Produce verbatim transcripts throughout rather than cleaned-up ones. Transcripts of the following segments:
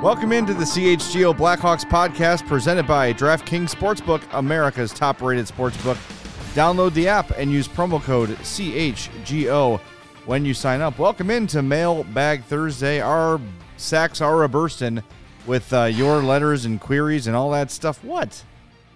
Welcome into the C H G O Blackhawks podcast presented by DraftKings Sportsbook, America's top-rated sportsbook. Download the app and use promo code C H G O when you sign up. Welcome into Mailbag Thursday. Our sacks are a-bursting with uh, your letters and queries and all that stuff. What?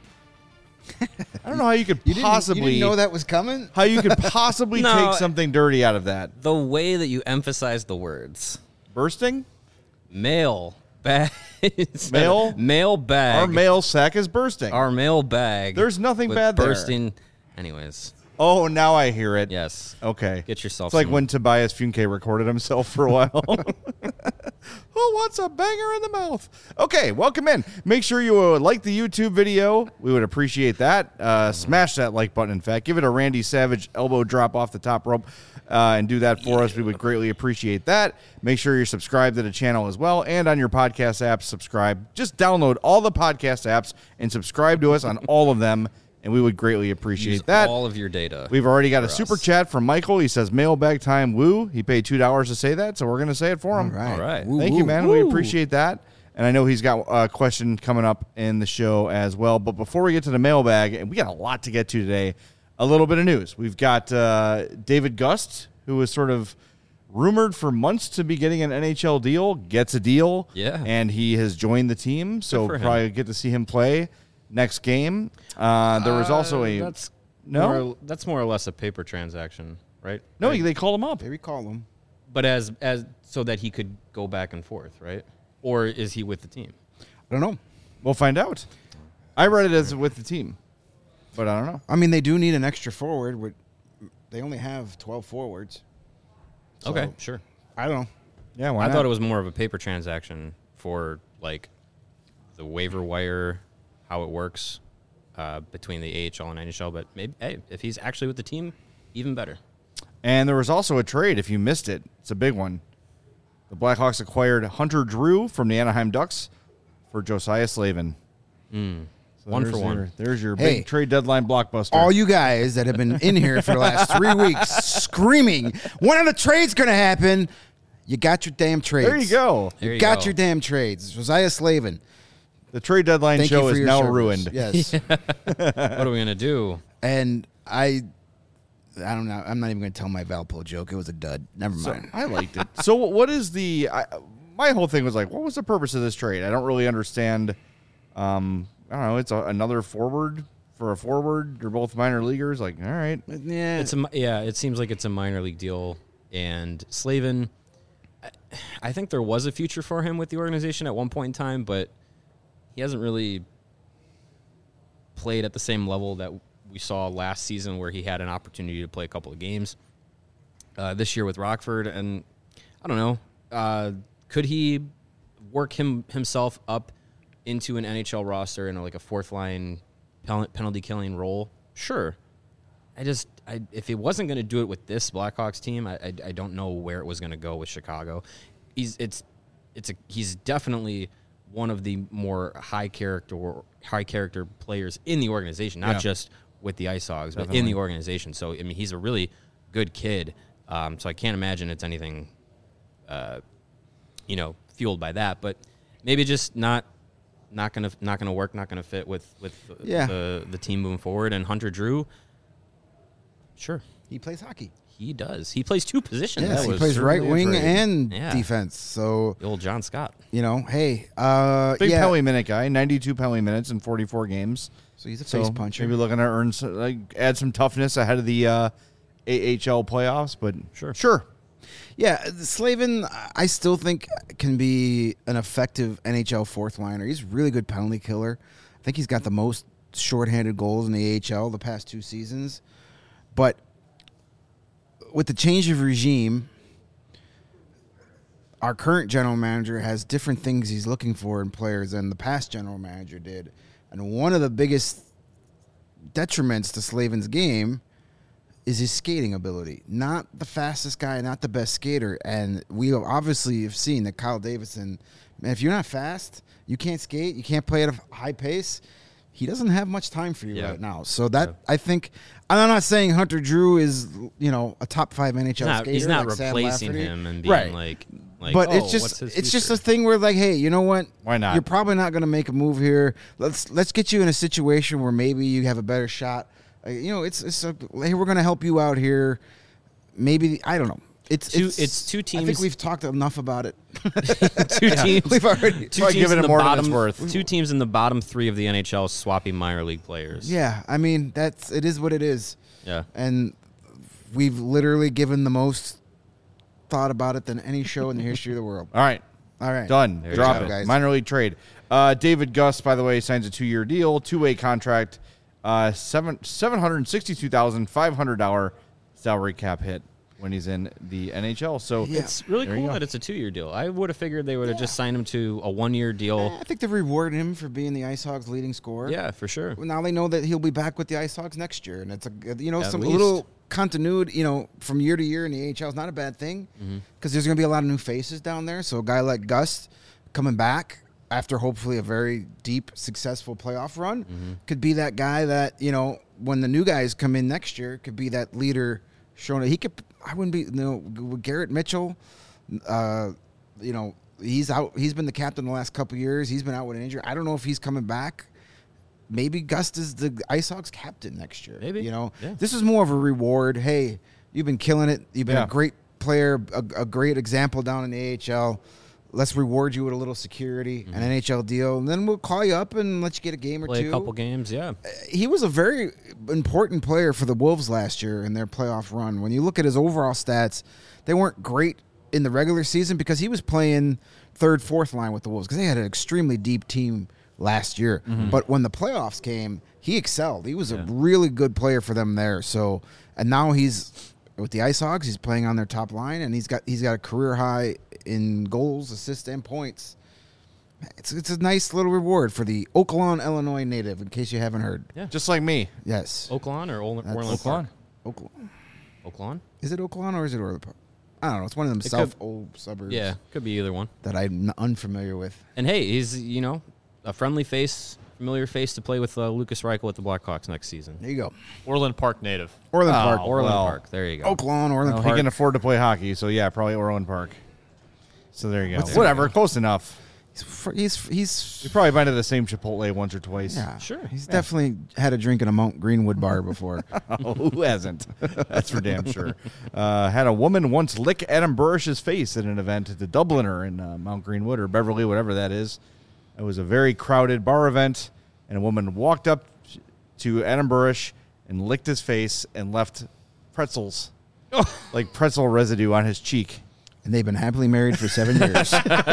I don't know how you could you possibly... Didn't, you didn't know that was coming? How you could possibly No, take something dirty out of that. The way that you emphasize the words. Bursting? Mail. Bag. Mail? Mail bag. Our mail sack is bursting. Our mail bag. There's nothing with bad there. bursting. Anyways. Oh, now I hear it. Yes. Okay. Get yourself It's like some- when Tobias Funke recorded himself for a while. Who wants a banger in the mouth? Okay, welcome in. Make sure you uh, like the YouTube video. We would appreciate that. Uh, smash that like button, in fact. Give it a Randy Savage elbow drop off the top rope uh, and do that for us. We would greatly appreciate that. Make sure you're subscribed to the channel as well. And on your podcast apps, subscribe. Just download all the podcast apps and subscribe to us on all of them. And we would greatly appreciate Use that. all of your data. We've already got a for super us. chat from Michael. He says, mailbag time, woo. He paid two dollars to say that, so we're going to say it for him. All right. All right. Woo, Thank woo, you, man. woo. We appreciate that. And I know he's got a question coming up in the show as well. But before we get to the mailbag, and we got a lot to get to today, a little bit of news. We've got uh, David Gust, who was sort of rumored for months to be getting an N H L deal, gets a deal. Yeah. And he has joined the team, so for him. probably get to see him play next game. Uh, there was also a... That's No? More, that's more or less a paper transaction, right? No, Right. they called him up. They recall him. But as as so that he could go back and forth, right? Or is he with the team? I don't know. We'll find out. I read it as with the team, but I don't know. I mean, they do need an extra forward. With, they only have twelve forwards. So, Okay, sure. I don't know. Yeah, why I not? thought it was more of a paper transaction for like the waiver wire, how it works uh, between the A H L and N H L. But maybe, hey, if he's actually with the team, even better. And there was also a trade, if you missed it. It's a big one. The Blackhawks acquired Hunter Drew from the Anaheim Ducks for Josiah Slavin. Mm. So One there's for one. Your, there's your Hey. big trade deadline blockbuster. All you guys that have been in here for the last three weeks screaming, when are the trades going to happen? You got your damn trades. there you go. There you got go. your damn trades. Josiah Slavin. The trade deadline Thank show you for is your now service. ruined. Yes. What are we gonna do? And I, I don't know. I'm not even going to tell my Valpo joke. It was a dud. Never So, mind. I liked it. So what is the... I, my whole thing was like, what was the purpose of this trade? I don't really understand. Um, I don't know. It's a, another forward for a forward. They're both minor leaguers. Like, all right. yeah. It's a mi- yeah. It seems like it's a minor league deal, and Slavin. I, I think there was a future for him with the organization at one point in time, but he hasn't really played at the same level that we saw last season, where he had an opportunity to play a couple of games. Uh, this year with Rockford, and I don't know, uh, could he work him himself up into an N H L roster in like a fourth line penalty killing role? Sure. I just, I, if he wasn't going to do it with this Blackhawks team, I, I, I don't know where it was going to go with Chicago. He's, it's, it's a, he's definitely one of the more high character, high character players in the organization, not Yeah. just with the Ice Hogs, but Definitely. in the organization. So, I mean, he's a really good kid. Um, so I can't imagine it's anything, uh, you know, fueled by that. But maybe just not, not gonna, not gonna work, not gonna fit with with Yeah. the the team moving forward. And Hunter Drew, sure, He plays hockey. he does. He plays two positions. Yes, That he was plays right certainly a wing trade. and Yeah. defense. So, the old John Scott. you know, hey, uh, Big yeah. penalty minute guy. ninety-two penalty minutes in forty-four games. So he's a So face puncher. maybe looking to earn some, like add some toughness ahead of the uh, A H L playoffs. But Sure. sure. Yeah, Slavin, I still think can be an effective N H L fourth liner. He's a really good penalty killer. I think he's got the most shorthanded goals in the A H L the past two seasons. But with the change of regime, our current general manager has different things he's looking for in players than the past general manager did. And one of the biggest detriments to Slavin's game is his skating ability. Not the fastest guy, not the best skater. And we obviously have seen that Kyle Davidson, man, if you're not fast, you can't skate, you can't play at a high pace, he doesn't have much time for you Yeah. right now. So that, Yeah. I think, and I'm not saying Hunter Drew is, you know, a top five N H He's L not, skater. he's not like Sam replacing Lafferty. him and being Right. like, Like, but oh, it's what's just his it's just future? a thing where like, hey, you know what? Why not? You're probably not going to make a move here. Let's let's get you in a situation where maybe you have a better shot. Uh, you know, it's it's a, hey, we're going to help you out here. Maybe I don't know. It's Two- it's, it's two I think teams- we've talked enough about it. two teams. We've already. Two Probably teams giving in it the more than it's bottom, worth. Two teams in the bottom three of the N H L swapping minor league players. Yeah, I mean that's it is what it is, Yeah. and we've literally given the most thought about it than any show in the history of the world. All right. All right, Done. There you Drop go. it. guys. Minor league trade. Uh, David Gus, by the way, signs a two-year deal, two-way contract, uh, seven seven hundred sixty-two thousand five hundred dollar salary cap hit when he's in the N H L. So Yeah. It's really There you cool go. that it's a two-year deal. I would have figured they would have just signed him to a one-year deal. I think they've rewarded him for being the Ice Hogs' leading scorer. Yeah, for sure. Well, now they know that he'll be back with the Ice Hogs next year, and it's a you know At some a least. little continuity, you know, from year to year in the A H L is not a bad thing because there's going to be a lot of new faces down there. So a guy like Gus coming back after hopefully a very deep, successful playoff run could be that guy that you know when the new guys come in next year could be that leader. Showing that he could, I wouldn't be you know with Garrett Mitchell. Uh, you know he's out. He's been the captain the last couple years. He's been out with an injury. I don't know if he's coming back. Maybe Gust is the Ice Hogs captain next year. Maybe. You know, Yeah. this is more of a reward. Hey, you've been killing it. You've been Yeah. a great player, a, a great example down in the A H L. Let's reward you with a little security, an N H L deal, and then we'll call you up and let you get a game or Play two. a couple games, yeah. He was a very important player for the Wolves last year in their playoff run. When you look at his overall stats, they weren't great in the regular season because he was playing third, fourth line with the Wolves because they had an extremely deep team last year. But when the playoffs came, he excelled. He was a Yeah. really good player for them there. So, and now he's with the Ice Hogs. He's playing on their top line, and he's got he's got a career high in goals, assists, and points. It's it's a nice little reward for the Oaklawn, Illinois native. In case you haven't heard, Yeah. just like me. yes, Oaklawn or Orland, That's- Orland Park? Oaklawn. Oaklawn? Is it Oaklawn or is it Orland Park? I don't know. It's one of them It south could- old suburbs. Yeah, could be either one. that I'm unfamiliar with. And hey, he's, you know, a friendly face, familiar face to play with uh, Lucas Reichel at the Blackhawks next season. There you go. Orland Park native. Orland Oh, Park. Orland well. Park. There you go. Oaklawn, Orland Well, Park. he can afford to play hockey, so yeah, probably Orland Park. So there you go. What's- Whatever, close enough. he's fr- he's, he's We probably been to the same Chipotle once or twice. yeah, Sure. He's definitely had a drink in a Mount Greenwood bar before. Oh, who hasn't? That's for damn sure. Uh, had a woman once lick Adam Burrish's face at an event at the Dubliner in uh, Mount Greenwood or Beverly, whatever that is. It was a very crowded bar event, and a woman walked up to Adam Burrish and licked his face and left pretzels, like pretzel residue on his cheek. And they've been happily married for seven years.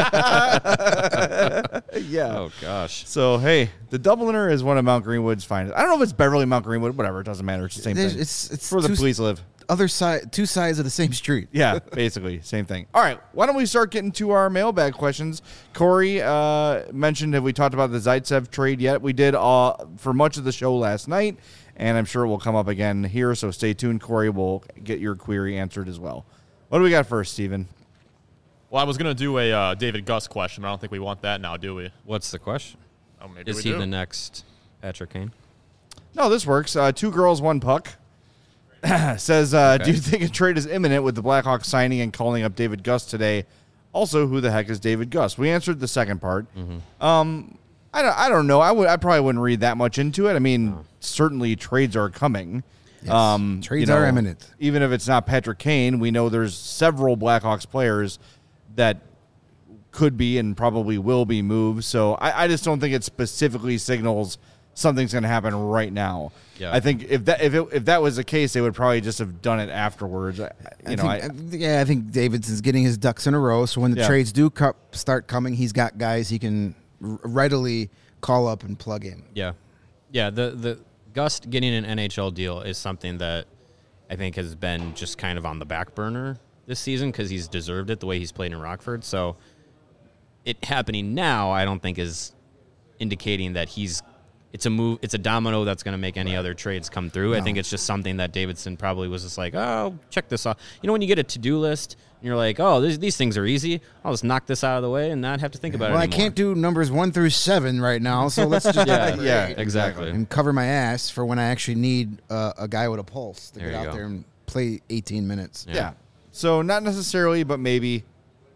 Yeah. Oh, gosh. So, hey, the Dubliner is one of Mount Greenwood's finest. I don't know if it's Beverly, Mount Greenwood, whatever. It doesn't matter. It's the same There's- thing. It's it's where the two, police live. other side, two sides of the same street. Yeah, basically, same thing. All right, why don't we start getting to our mailbag questions? Corey uh, mentioned, have we talked about the Zaitsev trade yet? We did uh, for much of the show last night, and I'm sure it will come up again here, so stay tuned. Corey will get your query answered as well. What do we got first, Steven? Well, I was going to do a uh, David Gus question, but I don't think we want that now, do we? What's the question? Oh, maybe Is we he do. the next Patrick Kane? No, this works. Uh, two girls, one puck. Says, uh, Okay. do you think a trade is imminent with the Blackhawks signing and calling up David Gus today? Also, who the heck is David Gus? We answered the second part. Um, I don't, I don't know. I would, I probably wouldn't read that much into it. I mean, certainly trades are coming. Yes. Um, Trades you know, are imminent. Even if it's not Patrick Kane, we know there's several Blackhawks players that could be and probably will be moved. So I, I just don't think it specifically signals something's going to happen right now. Yeah. I think if that if it, if that was the case, they would probably just have done it afterwards. I- You I know, think, I, I- yeah, I think Davidson's getting his ducks in a row. So when the Yeah. trades do co- start coming, he's got guys he can r- readily call up and plug in. Yeah. Yeah, the, the Gust getting an N H L deal is something that I think has been just kind of on the back burner this season because he's deserved it the way he's played in Rockford. So it happening now, I don't think is indicating that he's it's a move it's a domino that's going to make any other trades come through. I think it's just something that Davidson probably was just like, oh, check this off. You know, when you get a to-do list and you're like, oh, these, these things are easy. I'll just knock this out of the way and not have to think about Well, it I anymore. can't do numbers one through seven right now, so let's just Yeah, Yeah, exactly. and cover my ass for when I actually need uh, a guy with a pulse to There get you out go. there and play eighteen minutes. yeah. So not necessarily, but maybe.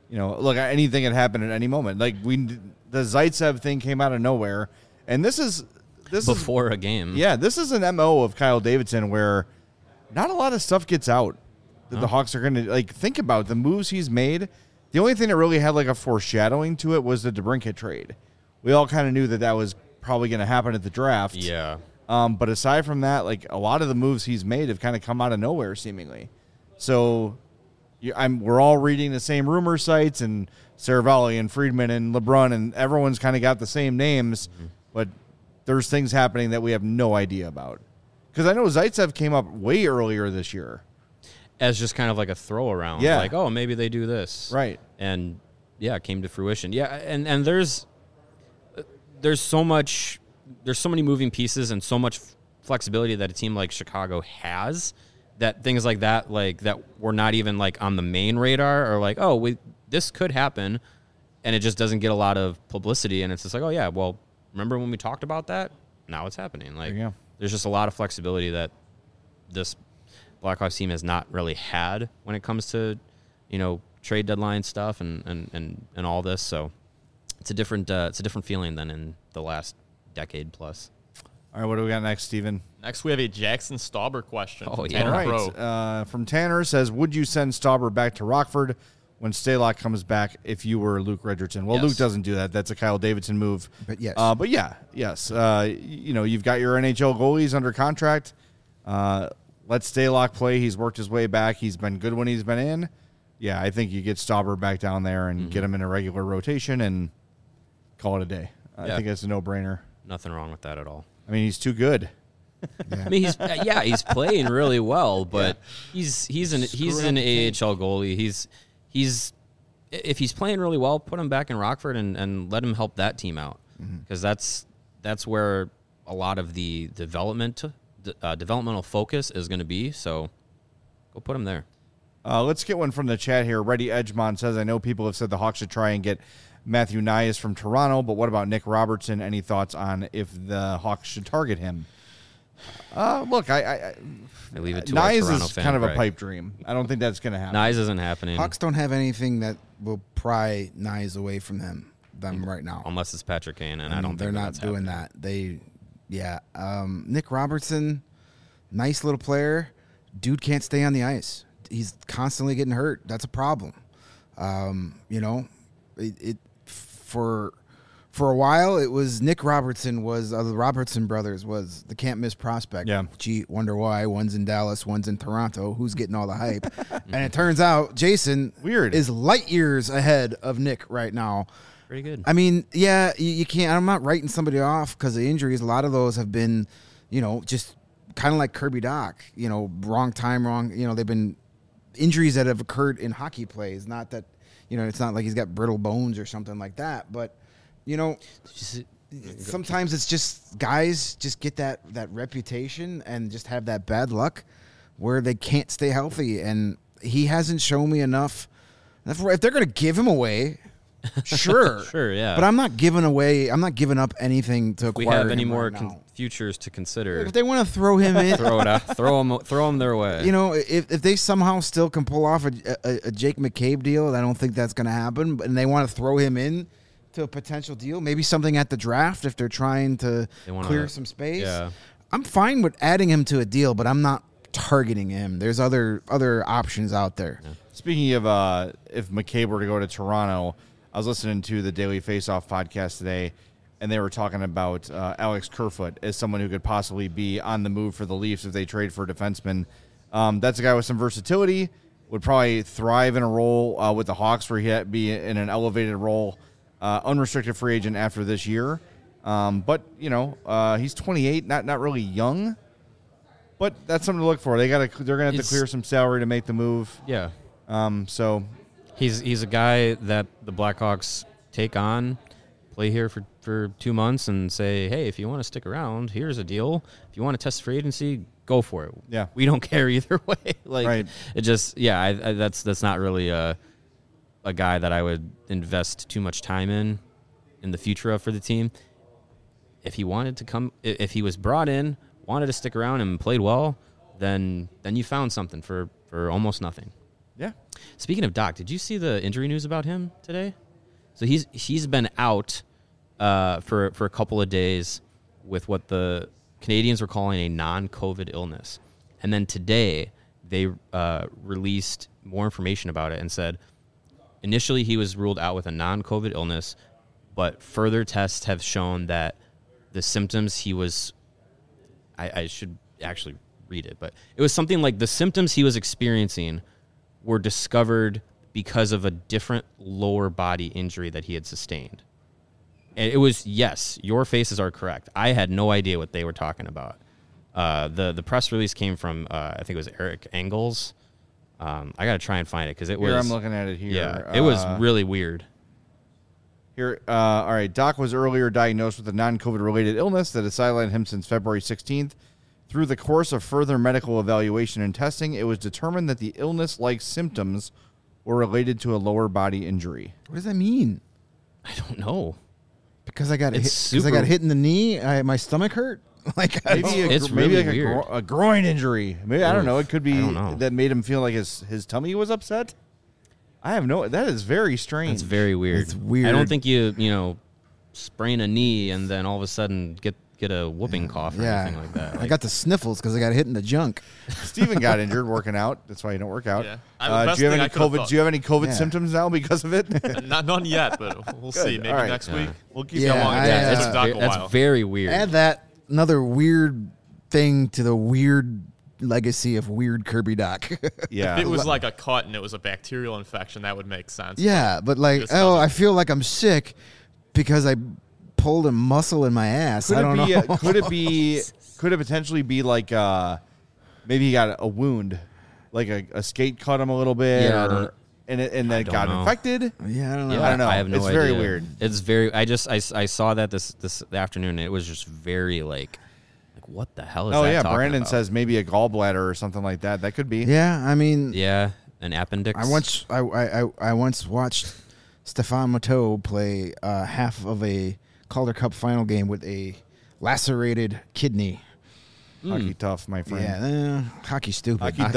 you know, look, anything had happened at any moment. Like we, the Zaitsev thing came out of nowhere, and this is this Before is, a game. Yeah, this is an M O of Kyle Davidson where not a lot of stuff gets out that No. the Hawks are going to like think about the moves he's made. The only thing that really had like a foreshadowing to it was the DeBrincat trade. We all kind of knew that that was probably going to happen at the draft. Yeah. Um, but aside from that, like a lot of the moves he's made have kind of come out of nowhere, seemingly. So, you, I'm we're all reading the same rumor sites, and Saravalli and Friedman and LeBron, and everyone's kind of got the same names, mm-hmm. but there's things happening that we have no idea about. Because I know Zaitsev came up way earlier this year. As just kind of like a throw around. Yeah. Like, oh, maybe they do this. Right. And, yeah, it came to fruition. Yeah, and, and there's there's so much, there's so many moving pieces and so much flexibility that a team like Chicago has that things like that, like, that were not even, like, on the main radar or like, oh, we, this could happen, and it just doesn't get a lot of publicity, and it's just like, oh, yeah, well, remember when we talked about that? Now it's happening. Like, There you go. there's just a lot of flexibility that this Blackhawks team has not really had when it comes to, you know, trade deadline stuff and, and, and, and all this. So it's a different uh, it's a different feeling than in the last decade plus. All right, what do we got next, Steven? Next, we have a Jackson Stauber question. Oh, from yeah. Tanner All right. Crow. Uh, from Tanner says, would you send Stauber back to Rockford when Stalock comes back if you were Luke Richardson? Well, Yes. Luke doesn't do that. That's a Kyle Davidson move. But yes. Uh, but yeah, yes. Uh, y- you know, you've got your N H L goalies under contract. Uh, let Stalock play. He's worked his way back. He's been good when he's been in. Yeah, I think you get Stauber back down there and Mm-hmm. get him in a regular rotation and call it a day. I Yeah. think that's a no-brainer. Nothing wrong with that at all. I mean, he's too good. I mean, he's uh, yeah, he's playing really well, but he's he's an he's Screw an up A H L goalie. He's he's if he's playing really well, put him back in Rockford and, and let him help that team out because that's that's where a lot of the development uh, developmental focus is going to be. So go put him there. Uh, let's get one from the chat here. Reddy Edgemont says, I know people have said the Hawks should try and get Matthew Nyes from Toronto, but what about Nick Robertson? Any thoughts on if the Hawks should target him? Uh, look, I, I, I I leave it to our Nyes Toronto is fan, kind of a Greg. pipe dream. I don't think that's going to happen. Nyes isn't happening Hawks don't have anything that will pry Nyes away from them them right now. unless it's Patrick Kane, and I, I mean, don't. they're think not that's doing happening. that. They, yeah. Um, Nick Robertson, nice little player. Dude can't stay on the ice. He's constantly getting hurt. That's a problem. Um, you know, it, it for for a while it was Nick Robertson was uh, the Robertson brothers was the can't miss prospect. Yeah. Gee, wonder why one's in Dallas, one's in Toronto. Who's getting all the hype? And it turns out Jason Weird. is light years ahead of Nick right now. Pretty good. I mean, yeah, you, you can't. I'm not writing somebody off because of injuries. A lot of those have been, you know, just kind of like Kirby Doc. You know, wrong time, wrong. You know, they've been injuries that have occurred in hockey plays. Not that, you know, it's not like he's got brittle bones or something like that. But, you know, Just- sometimes it's just guys just get that that reputation and just have that bad luck where they can't stay healthy. And he hasn't shown me enough. If if they're going to give him away. Sure, Sure, yeah. But I'm not giving away. I'm not giving up anything to if we acquire have any him more right con- now. futures to consider, If they want to throw him in, throw it out, throw them, throw them their way. you know, if if they somehow still can pull off a, a, a Jake McCabe deal, I don't think that's going to happen. But and they want to throw him in to a potential deal, maybe something at the draft if they're trying to They wanna- clear some space. yeah. I'm fine with adding him to a deal, but I'm not targeting him. There's other other options out there. Speaking of uh, if McCabe were to go to Toronto, I was listening to the Daily Faceoff podcast today, and they were talking about uh, Alex Kerfoot as someone who could possibly be on the move for the Leafs if they trade for a defenseman. Um, that's a guy with some versatility, would probably thrive in a role uh, with the Hawks where he'd be in an elevated role, uh, unrestricted free agent after this year. Um, but, you know, uh, he's twenty-eight, not not really young, but that's something to look for. They got to they're going to have It's- to clear some salary to make the move. yeah, Um, so he's he's a guy that the Blackhawks take on, play here for, for two months, and say, hey, if you want to stick around, here's a deal. If you want to test free agency, go for it. Yeah. we don't care either way. Like Right. it just yeah, I, I, that's that's not really a a guy that I would invest too much time in in the future of for the team. If he wanted to come, i- if he was brought in, wanted to stick around and played well, then then you found something for, for almost nothing. Yeah. Speaking of Doc, did you see the injury news about him today? So he's he's been out uh, for for a couple of days with what the Canadians were calling a non-COVID illness, and then today they uh, released more information about it and said initially he was ruled out with a non-COVID illness, but further tests have shown that the symptoms he was, I, I should actually read it, but it was something like the symptoms he was experiencing were discovered because of a different lower body injury that he had sustained. And it was, yes, your faces are correct. I had no idea what they were talking about. Uh, the the press release came from, uh, I think it was Eric Engels. Um, I got to try and find it because it was. Here, I'm looking at it here. Yeah, it was Uh, really weird. Here, uh, all right. Doc was earlier diagnosed with a non-COVID related illness that has sidelined him since February sixteenth. Through the course of further medical evaluation and testing, it was determined that the illness-like symptoms were related to a lower body injury. What does that mean? I don't know. Because I got hit. It's Because I got super- hit in the knee. I, my stomach hurt. Like I Maybe, don't- a, It's gr- maybe really like a, weird. gro- a groin injury. Maybe I don't Oof, know. It could be I don't know. that made him feel like his his tummy was upset. I have no. That is very strange. It's very weird. It's weird. I don't think you, you know, sprain a knee and then all of a sudden get get a whooping cough or yeah. anything like that. I Like, got the sniffles because I got hit in the junk. Steven got injured working out. That's why you don't work out. Yeah. I- the Uh, best do you have thing any I could've COVID? thought- Do you have any COVID Yeah. symptoms now because of it? Not none yet, but we'll see. Good. Maybe All right. next Yeah. week. We'll keep Yeah, that long. I, Yeah, uh, that's, it's Doc ve- a that's while. very weird. Add that another weird thing to the weird legacy of weird Kirby Doc. Yeah. If it was like a cut and it was a bacterial infection, that would make sense. yeah, but like, This oh, doesn't. I feel like I'm sick because I pulled a muscle in my ass. Could I it don't be? know. uh, could it be? Could it potentially be like uh, maybe he got a wound, like a, a skate cut him a little bit, Yeah, I or, don't- and it, and then it don't got know. infected. yeah, I don't know. Yeah, I don't know. I have no It's idea. very weird. It's very. I just I, s- I saw that this this afternoon. And it was just very like like what the hell is Oh that yeah, talking Brandon about? says maybe a gallbladder or something like that. That could be. Yeah, I mean, Yeah, an appendix. I once I, I, I, I once watched Stefan Matteau play uh, half of a Calder Cup final game with a lacerated kidney. Hockey tough, my friend. Yeah, eh, hockey stupid. Hockey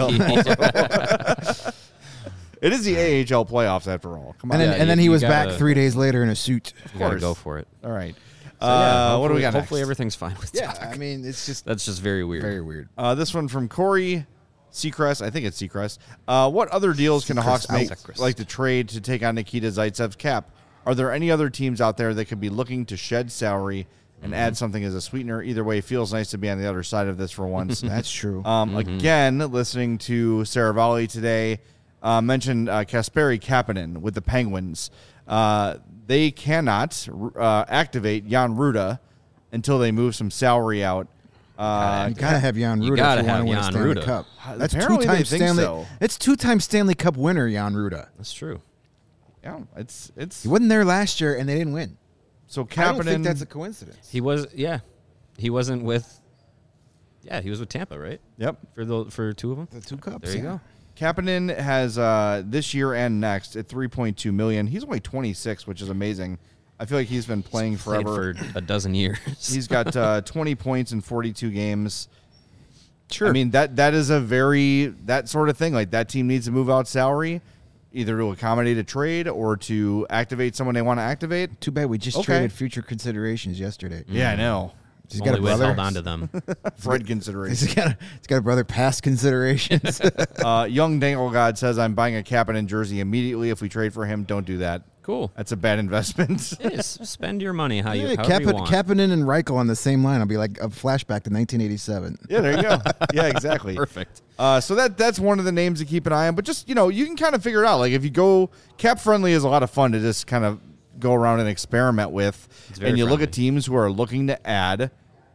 dumb. It is the A H L playoffs after all. Come on. And then, Yeah, and then you- he you was gotta- back three days later in a suit. You gotta course. go for it. All right. So, uh, yeah, what do we hopefully- got Hopefully next? everything's fine with Yeah, Doc. I mean, it's just That's just very weird. very weird. Uh, this one from Corey Seacrest. I think it's Seacrest. Uh, what other deals can the Hawks Seacrest make, out. like the trade to take on Nikita Zaitsev's cap? Are there any other teams out there that could be looking to shed salary and Mm-hmm. add something as a sweetener? Either way, it feels nice to be on the other side of this for once. That's true. Um, Mm-hmm. Again, listening to Saravalli today, uh, mentioned uh, Kasperi Kapanen with the Penguins. Uh, they cannot uh, activate Jan Ruda until they move some salary out. Uh, you gotta have Jan you Ruda gotta if you want have to win a Jan Stanley Ruda. Cup. Uh, That's apparently two-time they think Stanley. so. It's two-time Stanley Cup winner Jan Ruda. That's true. yeah, it's it's He wasn't there last year, and they didn't win. so I don't think Kapanen. that's a coincidence. He was. Yeah, he wasn't with. Yeah, he was with Tampa, right? Yep, For the for two of them. The two cups. There you yeah. go. Kapanen has uh, this year and next at three point two million. He's only twenty-six, which is amazing. I feel like he's been playing Played forever. for a dozen years. He's got uh, twenty points in forty-two games. Sure. I mean that that is a very that sort of thing. Like that team needs to move out salary, either to accommodate a trade or to activate someone they want to activate. Too bad we just Okay. traded future considerations yesterday. Yeah, I know. He's got a Only way brother. held on to them. Fred consideration. He's got a, he's got a brother past considerations. uh, Young Dangle God says I'm buying a Kapanen jersey immediately if we trade for him. Don't do that. Cool. That's a bad investment. It is. Spend your money how you, Yeah, however you Kapan- want. Kapanen and Reichel on the same line. I'll be like a flashback to nineteen eighty-seven. Yeah, there you go. Yeah, exactly. Perfect. Uh, so that that's one of the names to keep an eye on. But just, you know, you can kind of figure it out. Like if you go cap friendly is a lot of fun to just kind of go around and experiment with. It's very And you look friendly. at teams who are looking to add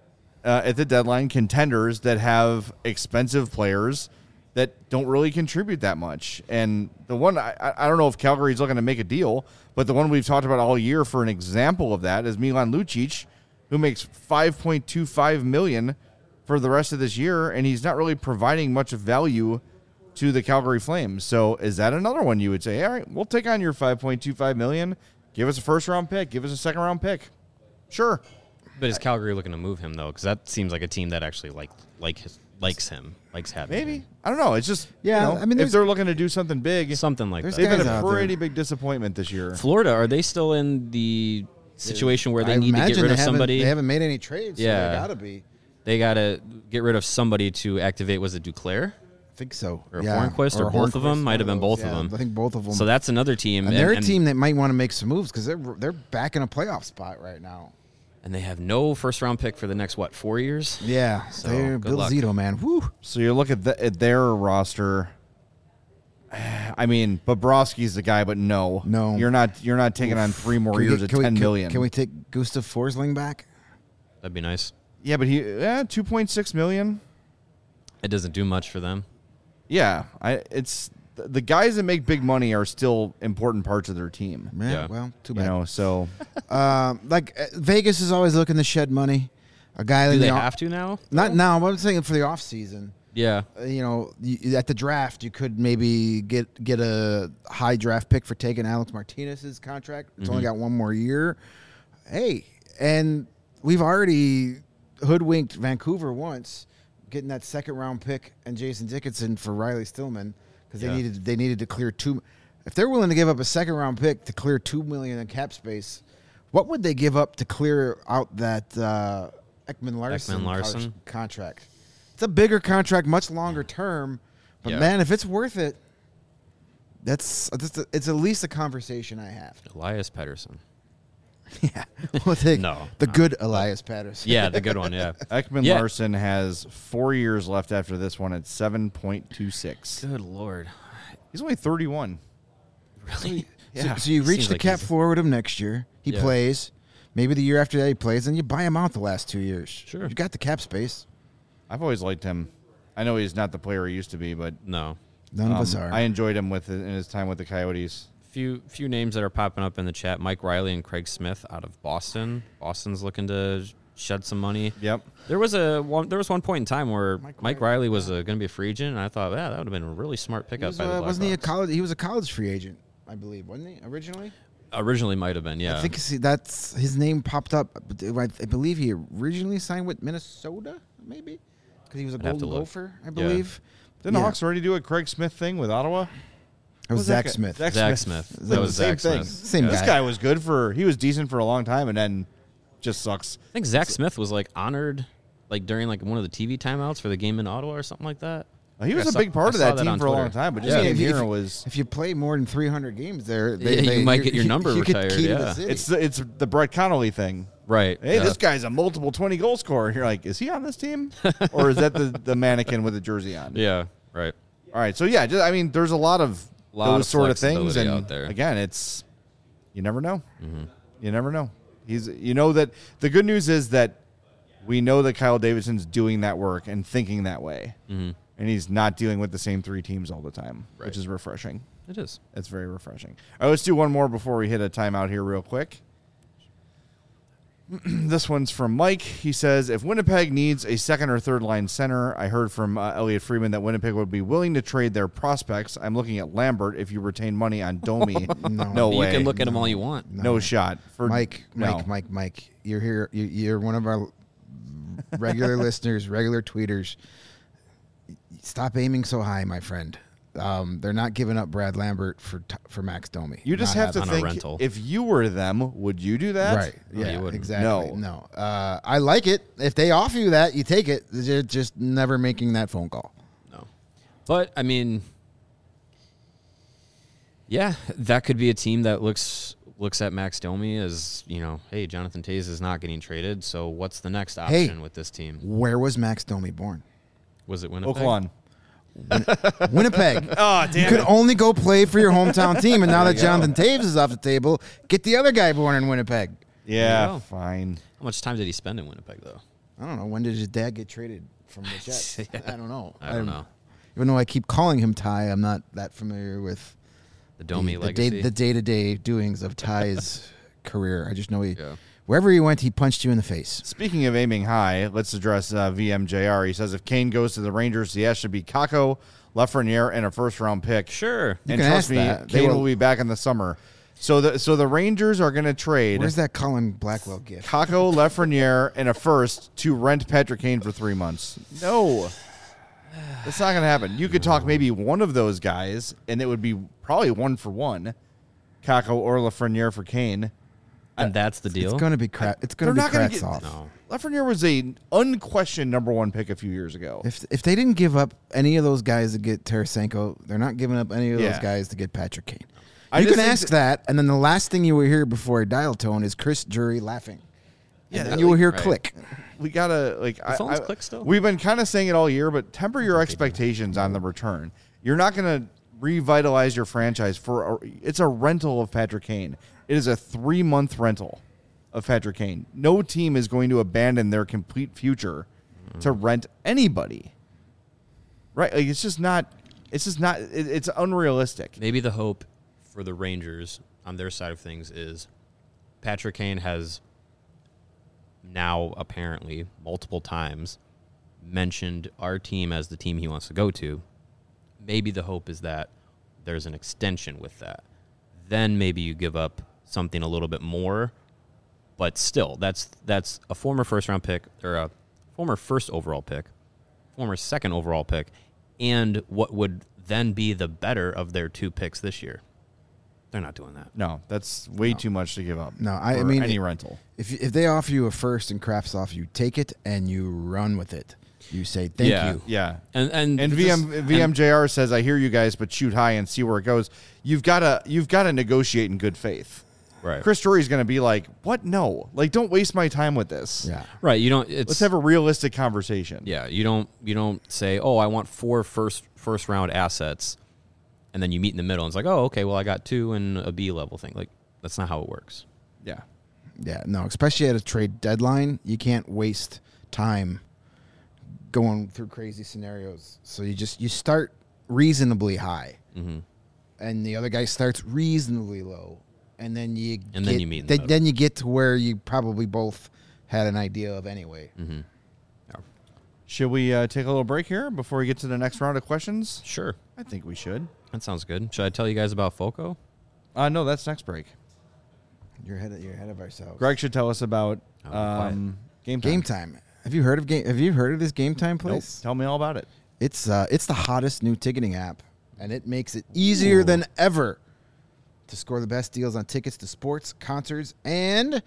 uh, at the deadline contenders that have expensive players that don't really contribute that much. And the one I, I I don't know if Calgary's looking to make a deal, but the one we've talked about all year for an example of that is Milan Lucic, who makes five point two five million dollars for the rest of this year, and he's not really providing much value to the Calgary Flames. So is that another one you would say, all right, we'll take on your five point two five million dollars, give us a first round pick, give us a second round pick. Sure. But is Calgary looking to move him though? Because that seems like a team that actually like like his likes him, likes having Maybe. him. I don't know. It's just, Yeah, you know, I mean, if there's- they're looking to do something big, Something like There's that. they've been guys a out there. pretty big disappointment this year. Florida, are they still in the situation where they I need to imagine get rid they of haven't- somebody? They haven't made any trades. Yeah. So they gotta be. They got to get rid of somebody to activate, was it Duclair? I think so. Or yeah. Hornquist, or both of them? Hornquist, Might have one been both of yeah, them. I think both of them. So that's another team. and they're a team that might want to make some moves because they're they're back in a playoff spot right now. And they have no first round pick for the next, what, four years? Yeah, So, they're good Bill luck. Zito, man. Woo. So you look at, the, at their roster. I mean, Bobrovsky's the guy, but no, No. you're not. You're not taking on three more Can we years get- at can we- ten can- million. Can we take Gustav Forsling back? That'd be nice. Yeah, but he yeah, two point six million. It doesn't do much for them. Yeah, I. It's the guys that make big money are still important parts of their team. Yeah, Yeah. well, too You bad. know, so Um, like uh, Vegas is always looking to shed money. A guy Do in they the off- have to now? not now, but I'm saying for the off season. Yeah. Uh, you know, you, at the draft, you could maybe get get a high draft pick for taking Alex Martinez's contract. It's only got one more year. Hey, and we've already hoodwinked Vancouver once, getting that second round pick and Jason Dickinson for Riley Stillman because Yeah. they needed they needed to clear two. If they're willing to give up a second round pick to clear two million in cap space, what would they give up to clear out that uh, Ekman Larson, Ekman-Larsson? contract? It's a bigger contract, much longer term, but Yeah. man, if it's worth it, that's, that's it's at least a conversation I have. Elias Pettersson. Yeah, we'll take No. the good Elias Patterson. Yeah, the good one, yeah. Ekman Yeah. Larson has four years left after this one at seven point two six. Good Lord. He's only thirty-one. Really? Yeah. So, so you reach Seems the like cap he's- floor with him next year. He Yeah. plays. Maybe the year after that he plays, and you buy him out the last two years. Sure. You got the cap space. I've always liked him. I know he's not the player he used to be, but No. None of um, us are. I enjoyed him with in his time with the Coyotes. Few few names that are popping up in the chat. Mike Riley and Craig Smith out of Boston. Boston's looking to shed some money. Yep. There was a one, there was one point in time where Mike Mike, Riley, Riley was uh, going to be a free agent, and I thought, yeah, that would have been a really smart He pickup was, by the uh, wasn't he a Blackhawks. college? He was a college free agent, I believe, wasn't he originally? Originally might have been, yeah. I think see, that's his name popped up. but I I believe he originally signed with Minnesota, maybe because he was a I'd have to Golden look. Gopher, I believe. Didn't the Yeah. Hawks already do a Craig Smith thing with Ottawa? It was Who's that Zach guy? Smith. Zach Zach Smith. Smith. It's That like was the same Zach thing. Smith. Same This guy. guy was good for. He was decent for a long time, and then just sucks. I think Zach Smith was like honored, like during like one of the T V timeouts for the game in Ottawa or something like that. He was I a saw- big part I of saw that that team on for a long Twitter. time, but I just mean, him if, here if, was. if you play more than three hundred games there, they, Yeah, you they, might get your number you get retired, key to the yeah. city. It's the it's the Brett Connolly thing. Right. Hey, yeah. this guy's a multiple twenty goal scorer. You're like, is he on this team, or is that the, the mannequin with the jersey on? Yeah. Right. All right, so yeah, just, I mean, there's a lot of Lot those of sort of things, flexibility and out there. again, it's you never know. You never know. He's you know that the good news is that we know that Kyle Davidson's doing that work and thinking that way, Mm-hmm. and he's not dealing with the same three teams all the time, Right. which is refreshing. It is. It's very refreshing. All right, let's do one more before we hit a timeout here real quick. This one's from Mike. He says, if Winnipeg needs a second or third line center, I heard from uh, Elliot Freeman that Winnipeg would be willing to trade their prospects. I'm looking at Lambert if you retain money on Domi. No. no You way. can look at them all you want. no. shot. For, Mike, no. Mike, Mike, Mike. You're here. You, you're one of our regular listeners, regular tweeters. Stop aiming so high, my friend. Um, they're not giving up Brad Lambert for t- for Max Domi. You just Not have to on a think, rental. if you were them, would you do that? Right. No, Yeah, you wouldn't. exactly. No. No. Uh, I like it. If they offer you that, you take it. They're just never making that phone call. No. But I mean, yeah, that could be a team that looks looks at Max Domi as, you know, hey, Jonathan Toews is not getting traded, so what's the next Hey. option with this team? Where was Max Domi born? Was it Winnipeg? Oakland. Winnipeg. Oh, You damn could it. only go play for your hometown team, and now There that you go. Jonathan Taves is off the table, get the other guy born in Winnipeg. Yeah, There you go. fine. How much time did he spend in Winnipeg, though? I don't know. When did his dad get traded from the Jets? Yeah. I don't know. I don't know. Even though I keep calling him Ty, I'm not that familiar with The Domi the, the, legacy. day, the day-to-day doings of Ty's career. I just know he, Yeah. wherever he went, he punched you in the face. Speaking of aiming high, let's address uh, V M J R. He says if Kane goes to the Rangers, the S should be Kako, Lafreniere, and a first-round pick. Sure. You And can trust ask me, that. They Kane were- will be back in the summer. So the so the Rangers are going to trade Where's that Colin Blackwell gift? Kako, Lafreniere, and a first to rent Patrick Kane for three months. No, That's not going to happen. You could talk maybe one of those guys, and it would be probably one for one. Kako or Lafreniere for Kane. And that's the deal. It's going to be crap. It's going They're to be not gonna cracks get- off. No. Lafreniere was a unquestioned number one pick a few years ago. If if they didn't give up any of those guys to get Tarasenko, they're not giving up any of Yeah. those guys to get Patrick Kane. I You just can think ask that, and then the last thing you will hear before I dial tone is Chris Drury laughing. Yeah, And then you will hear right. click. We gotta like. I, phones I- click still? We've been kind of saying it all year, but temper your expectations on the return. You're not gonna revitalize your franchise for. A, it's a rental of Patrick Kane. It is a three month rental of Patrick Kane. No team is going to abandon their complete future to rent anybody. Right? Like it's just not. It's just not. It, it's unrealistic. Maybe the hope for the Rangers on their side of things is Patrick Kane has now apparently multiple times mentioned our team as the team he wants to go to. Maybe the hope is that there's an extension with that. Then maybe you give up something a little bit more, but still, that's that's a former first round pick or a former first overall pick, former second overall pick, and what would then be the better of their two picks this year. They're not doing that. No, that's way too much to give up. No, I- I for mean, any it- rental. If if they offer you a first and Crafts offer you, take it and you run with it. You say thank Yeah. you. Yeah. And and And this- V M and- V M J R says, "I hear you guys, but shoot high and see where it goes." You've got to you've got to negotiate in good faith. right, Chris Drury's going to be like, "What? No, like, don't waste my time with this. Yeah. right. You don't. It's Let's have a realistic conversation." yeah. You don't. You don't say, oh, I want four first first round assets, and then you meet in the middle. And it's like, oh, okay, well, I got two and a B level thing. Like that's not how it works. yeah. Yeah, no, especially at a trade deadline, you can't waste time going through crazy scenarios. So you just you start reasonably high, Mm-hmm. and the other guy starts reasonably low, and then you And get, then you meet in the then, middle. then you get to where you probably both had an idea of anyway. Mm-hmm. Should we uh, take a little break here before we get to the next round of questions? Sure, I think we should. that sounds good. Should I tell you guys about Foco? Uh, no, that's next break. You're ahead of, you're ahead of ourselves. Greg should tell us about Oh, quiet. um, game time. Game time. Have you heard of game? Have you heard of this Game Time Nope. place? Tell me all about it. It's uh, it's the hottest new ticketing app, and it makes it easier Ooh. than ever to score the best deals on tickets to sports, concerts, and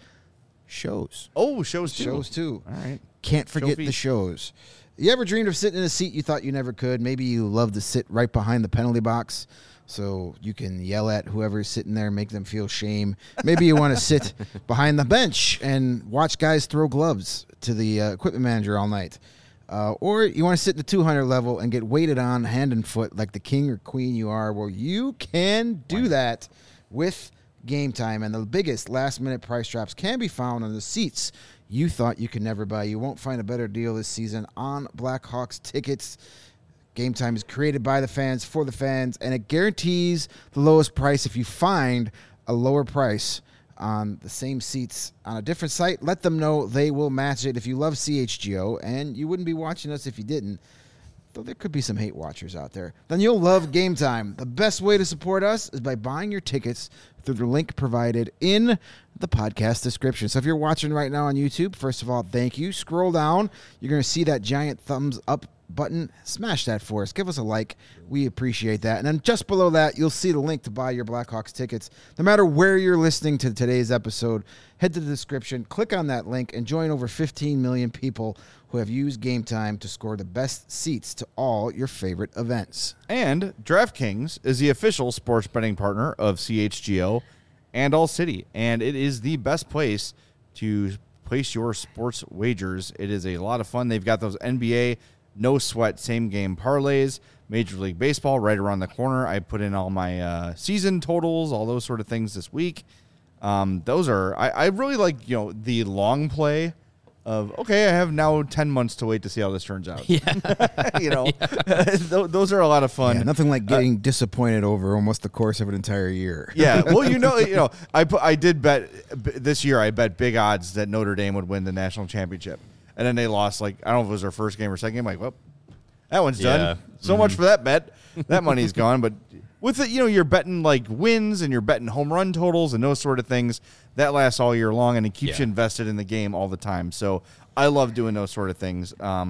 shows. Oh, shows too. Shows too. All right. Can't forget fees. the shows. You ever dreamed of sitting in a seat you thought you never could? Maybe you love to sit right behind the penalty box so you can yell at whoever's sitting there, make them feel shame. Maybe you want to sit behind the bench and watch guys throw gloves to the uh, equipment manager all night. Uh, or you want to sit in the two hundred level and get weighted on hand and foot like the king or queen you are. Well, you can do that with Game Time. And the biggest last-minute price drops can be found on the seats you thought you could never buy. You won't find a better deal this season on Blackhawks tickets. Game Time is created by the fans for the fans, and it guarantees the lowest price. If you find a lower price on the same seats on a different site, let them know. They will match it. If you love C H G O, and you wouldn't be watching us if you didn't, though there could be some hate watchers out there, then you'll love Game Time. The best way to support us is by buying your tickets through the link provided in the podcast description. So if you're watching right now on YouTube, first of all, thank you. Scroll down. You're going to see that giant thumbs up button. Smash that for us. Give us a like. We appreciate that. And then just below that, you'll see the link to buy your Blackhawks tickets. No matter where you're listening to today's episode, head to the description, click on that link, and join over fifteen million people who have used Game Time to score the best seats to all your favorite events. And DraftKings is the official sports betting partner of C H G O and All City, and it is the best place to place your sports wagers. It is a lot of fun. They've got those N B A no sweat same game parlays, Major League Baseball right around the corner. I put in all my uh, season totals, all those sort of things this week. Um, those are I, I really like you know the long play of okay, I have now ten months to wait to see how this turns out. Yeah. you know, Th- those are a lot of fun. Yeah, nothing like getting disappointed over almost the course of an entire year. Yeah, well, you know, you know, I put, I did bet b- this year. I bet big odds that Notre Dame would win the national championship, and then they lost. Like I don't know if it was their first game or second game. Like, well, that one's Yeah. done. So much for that bet. That money's gone. But with it, you know, you're betting like wins and you're betting home run totals and those sort of things. That lasts all year long, and it keeps Yeah. you invested in the game all the time. So I love doing those sort of things. Um,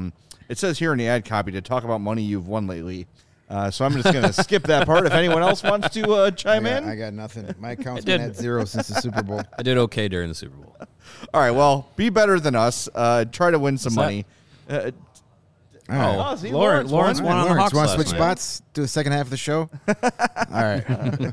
It says here in the ad copy to talk about money you've won lately. Uh, so I'm just going to skip that part. If anyone else wants to uh, chime I got, in. I got nothing. My account's did. been at zero since the Super Bowl. I did okay during the Super Bowl. All right, well, be better than us. Uh, try to win some What's money. Uh, All right. oh, see, Lauren- Lawrence All won right, on the Lawrence, Hawks want to last switch night. spots? Do the second half of the show? All right.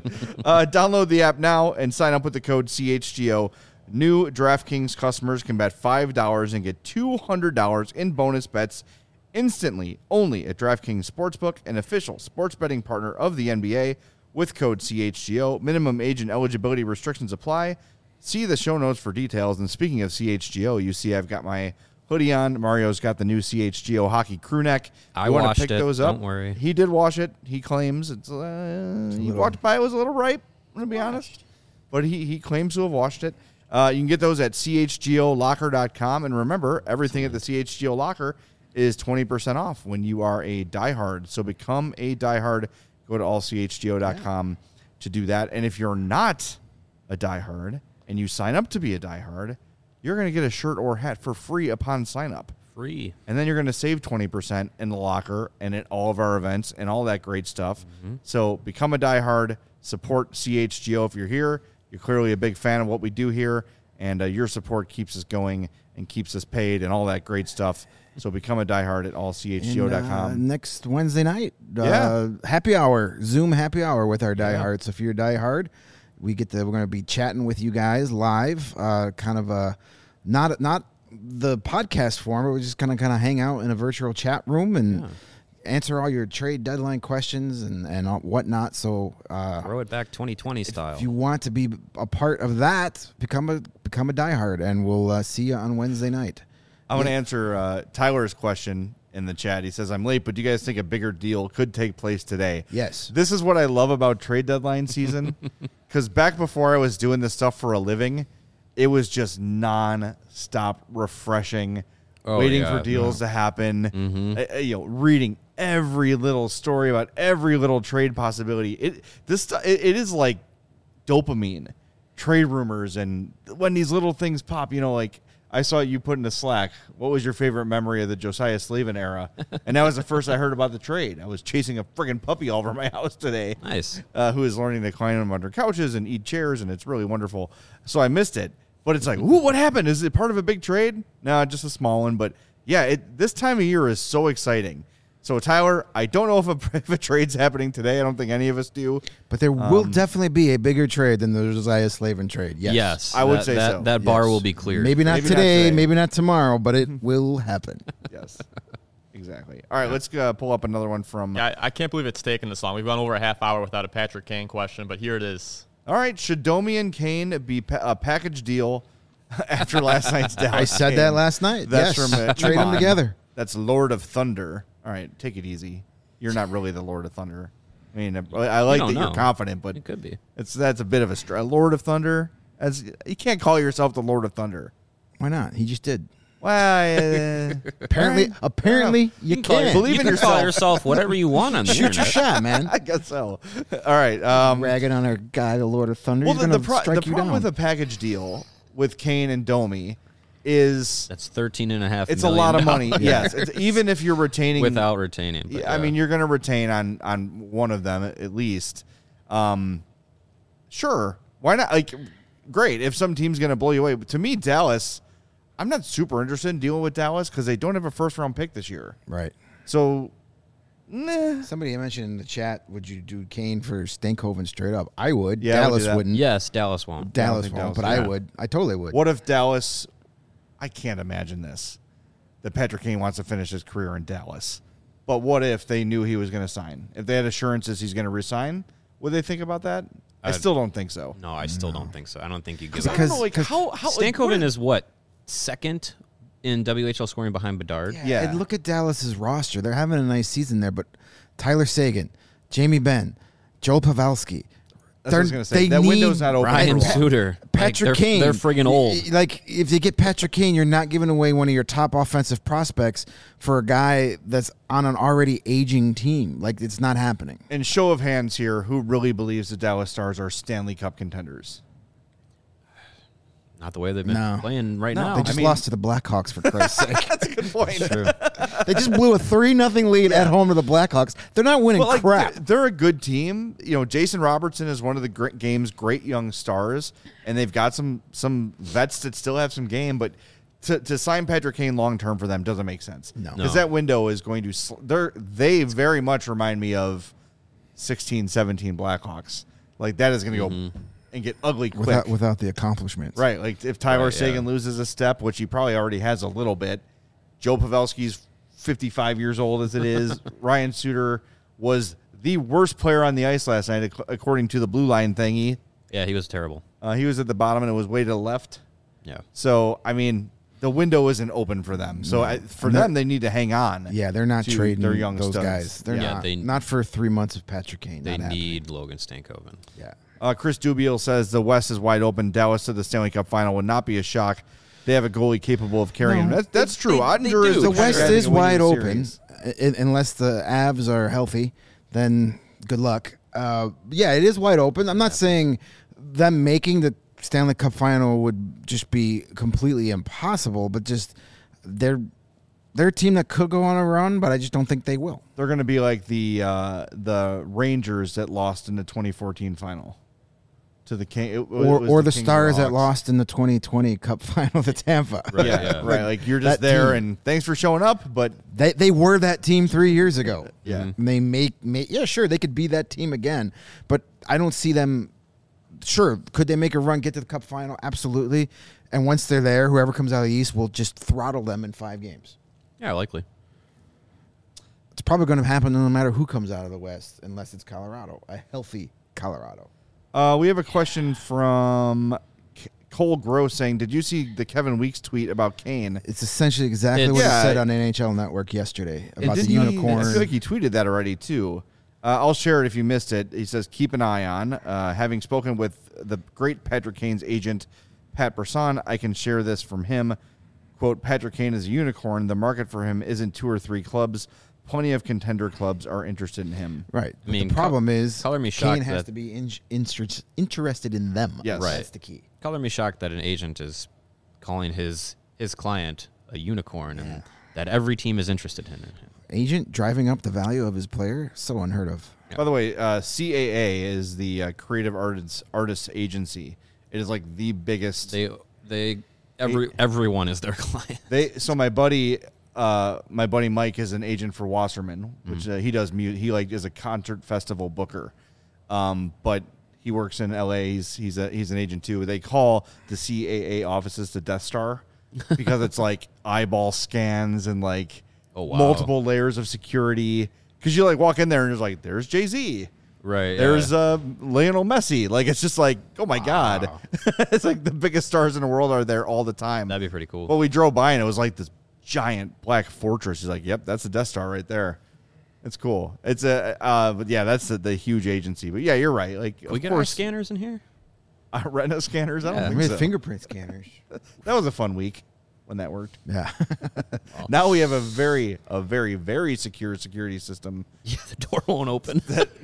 Uh, download the app now and sign up with the code C H G O. New DraftKings customers can bet five dollars and get two hundred dollars in bonus bets instantly only at DraftKings Sportsbook, an official sports betting partner of the N B A, with code C H G O. Minimum age and eligibility restrictions apply. See the show notes for details. And speaking of C H G O, you see I've got my hoodie on. Mario's got the new C H G O hockey crew neck. I you wanna washed pick it. those up? Don't worry. He did wash it. He claims it's. Uh, he walked by. It was a little ripe. I'm gonna be honest, but he he claims to have washed it. Uh, you can get those at C H G O locker dot com. And remember, everything at the C H G O Locker is twenty percent off when you are a diehard. So become a diehard. Go to all C H G O dot com to do that. And if you're not a diehard and you sign up to be a diehard, you're going to get a shirt or hat for free upon sign up. Free. And then you're going to save twenty percent in the locker and at all of our events and all that great stuff. Mm-hmm. So become a diehard. Support C H G O if you're here. You're clearly a big fan of what we do here. And uh, your support keeps us going and keeps us paid and all that great stuff. So become a diehard at all C H G O dot com. And, uh, next Wednesday night, uh, Yeah. happy hour, Zoom happy hour with our diehards. So if you're a diehard, we get to, we're going to be chatting with you guys live, uh, kind of a not not the podcast form, but we're just kind of kind of hang out in a virtual chat room and Yeah. answer all your trade deadline questions and and all, whatnot. So uh, Throw it back twenty twenty style. if you want to be a part of that, become a become a diehard, and we'll uh, see you on Wednesday night. I want to answer uh, Tyler's question in the chat. He says, I'm late, but do you guys think a bigger deal could take place today? Yes. This is what I love about trade deadline season. Because back before I was doing this stuff for a living, it was just non-stop refreshing, Oh, waiting yeah, for deals no. to happen, Mm-hmm. uh, uh, you know, reading every little story about every little trade possibility. It this stu- it, it is like dopamine, trade rumors, and when these little things pop, you know, like I saw you put in the Slack, what was your favorite memory of the Josiah Slavin era? And that was the first I heard about the trade. I was chasing a friggin' puppy all over my house today. Nice. Uh, who is learning to climb them under couches and eat chairs, and it's really wonderful. So I missed it. But it's like, ooh, what happened? Is it part of a big trade? No, just a small one. But yeah, it, this time of year is so exciting. So, Tyler, I don't know if a, if a trade's happening today. I don't think any of us do. But there will Um, definitely be a bigger trade than the Josiah Slavin trade. Yes. Yes. I would that, say that, so. That bar Yes. will be cleared. Maybe not Maybe not today, today. maybe not tomorrow, but it will happen. Yes, exactly. All right, let's uh, pull up another one from. Yeah, I, I can't believe it's taken this long. We've gone over a half hour without a Patrick Kane question, but here it is. All right, should Domi and Kane be pa- a package deal after last night's Dallas? I said game? that last night. That's yes. from uh, Trade them Iman. together. That's Lord of Thunder. All right, take it easy. You're not really the Lord of Thunder. I mean, I like that don't you're know. confident, but It could be. it's that's a bit of a str- Lord of Thunder. As you can't call yourself the Lord of Thunder. Why not? He just did. Well, uh, Apparently, all right. apparently you, can call can. your- Believe you in can call yourself. yourself whatever you want on the Shoot your internet. shot, man. I guess so. All right. Um, Ragging on our guy, the Lord of Thunder. well, He's the, gonna the, pro- strike the you problem down. with a package deal with Kane and Domi is That's thirteen and a half. it's a lot of money. million Yes, it's, even if you're retaining without retaining. but Yeah, I yeah. mean, you're going to retain on on one of them at least. Um, sure, why not? Like, great if some team's going to blow you away. But to me, Dallas, I'm not super interested in dealing with Dallas because they don't have a first round pick this year. right. So, nah. Somebody mentioned in the chat, would you do Kane for Stankhoven straight up? I would. Yeah, I would do Dallas that. wouldn't. yes, Dallas won't. Dallas think won't, Dallas- but I yeah. would. I totally would. What if Dallas? I can't imagine this. That Patrick Kane wants to finish his career in Dallas. But what if they knew he was going to sign? If they had assurances he's going to resign, would they think about that? I I'd- still don't think so. No, I still don't think so. I don't think you give I up. don't know, Because- like, because how, how, like, what Stankoven is what second in W H L scoring behind Bedard. Yeah. And look at Dallas's roster. They're having a nice season there, but Tyler Sagan, Jamie Benn, Joel Pavelski. That's what I was they're- gonna say. they That need window's not open. Ryan for a while. Suter, Patrick like, they're, Kane. They're friggin' old. Y- Like, if they get Patrick Kane, you're not giving away one of your top offensive prospects for a guy that's on an already aging team. Like, it's not happening. And show of hands here, who really believes the Dallas Stars are Stanley Cup contenders? Not the way they've been No. playing right No, now. They just I mean- lost to the Blackhawks, for Christ's sake. That's a good point. True. They just blew a three nothing lead at home to the Blackhawks. They're not winning But like crap. they're, they're a good team. You know, Jason Robertson is one of the great game's great young stars, and they've got some some vets that still have some game. But to, to sign Patrick Kane long term for them doesn't make sense. No. because No. that window is going to. Sl- they're they very much remind me of sixteen, seventeen Blackhawks. Like that is going to Mm-hmm. go and get ugly quick. without without the accomplishments. Right, like if Tyler Right, Sagan yeah. loses a step, which he probably already has a little bit. Joe Pavelski's fifty-five years old as it is. Ryan Suter was the worst player on the ice last night, ac- according to the blue line thingy. Yeah, he was terrible. Uh, he was at the bottom and it was way to the left. Yeah. So, I mean, the window isn't open for them. So, I, for And they're- them, they need to hang on. Yeah, they're not to trading their young those studs. guys. They're Yeah, not. they- not for three months of Patrick Kane. They Not happening. need Logan Stankoven. Yeah. Uh, Chris Dubiel says the West is wide open. Dallas to the Stanley Cup final would not be a shock. They have a goalie capable of carrying No. them. That's, that's true. They- Ottinger they is do. The Sure. West guy that is can win wide you a open, series. i- unless the Avs are healthy. Then good luck. Uh, yeah, it is wide open. I'm not saying them making the Stanley Cup final would just be completely impossible, but just they're they're a team that could go on a run, but I just don't think they will. They're going to be like the uh, the Rangers that lost in the twenty fourteen final to the King, it, it Or was or the Kings and Stars that Hawks. lost in the twenty twenty Cup final to Tampa. Right, Yeah, yeah. right. Like you're just That there, team. and thanks for showing up. But They they were that team three years ago. Yeah. And they make, make yeah, sure, they could be that team again, but I don't see them. Sure, could they make a run, get to the Cup final? Absolutely. And once they're there, whoever comes out of the East will just throttle them in five games. Yeah, likely. It's probably going to happen no matter who comes out of the West, unless it's Colorado, a healthy Colorado. uh, we have a question from K- Cole Gross saying, "Did you see the Kevin Weeks tweet about Kane?" It's essentially exactly It's- what Yeah. he said on N H L Network yesterday And about the didn't he- unicorn. I feel like he tweeted that already too. Uh, I'll share it if you missed it. He says, "Keep an eye on." Uh, having spoken with the great Patrick Kane's agent, Pat Brisson, I can share this from him. Quote, Patrick Kane is a unicorn. The market for him isn't two or three clubs. Plenty of contender clubs are interested in him. Right. But mean, the problem col- is color me Kane shocked has that- to be in, interest, interested in them. Yes. Right. That's the key. Color me shocked that an agent is calling his his client a unicorn Yeah. and that every team is interested in him. Agent driving up the value of his player, so unheard of. Yeah. By the way, uh, C A A is the uh, Creative Artists Artists Agency. It is like the biggest. They they every everyone is their client. They so my buddy, uh, my buddy Mike is an agent for Wasserman, which uh, he does. Mu- he like is a concert festival booker, um, but he works in L A. He's he's a he's an agent too. They call the C A A offices the Death Star because it's like eyeball scans and like Oh, wow. multiple layers of security. Because you like walk in there and it's like there's Jay Z. Right. There's yeah. uh, Lionel Messi. Like it's just like, oh my god, it's like the biggest stars in the world are there all the time. That'd be pretty cool. Well, we drove by and it was like this giant black fortress. He's like, "Yep, that's the Death Star right there." It's cool. It's a, uh, but yeah, that's the, the huge agency. But yeah, you're right. Like, Can we of get our course, scanners in here? uh, retina scanners. I don't Yeah. think We so. had fingerprint scanners. That was a fun week when that worked. Yeah. Now we have a very, a very, very secure security system. Yeah, the door won't open.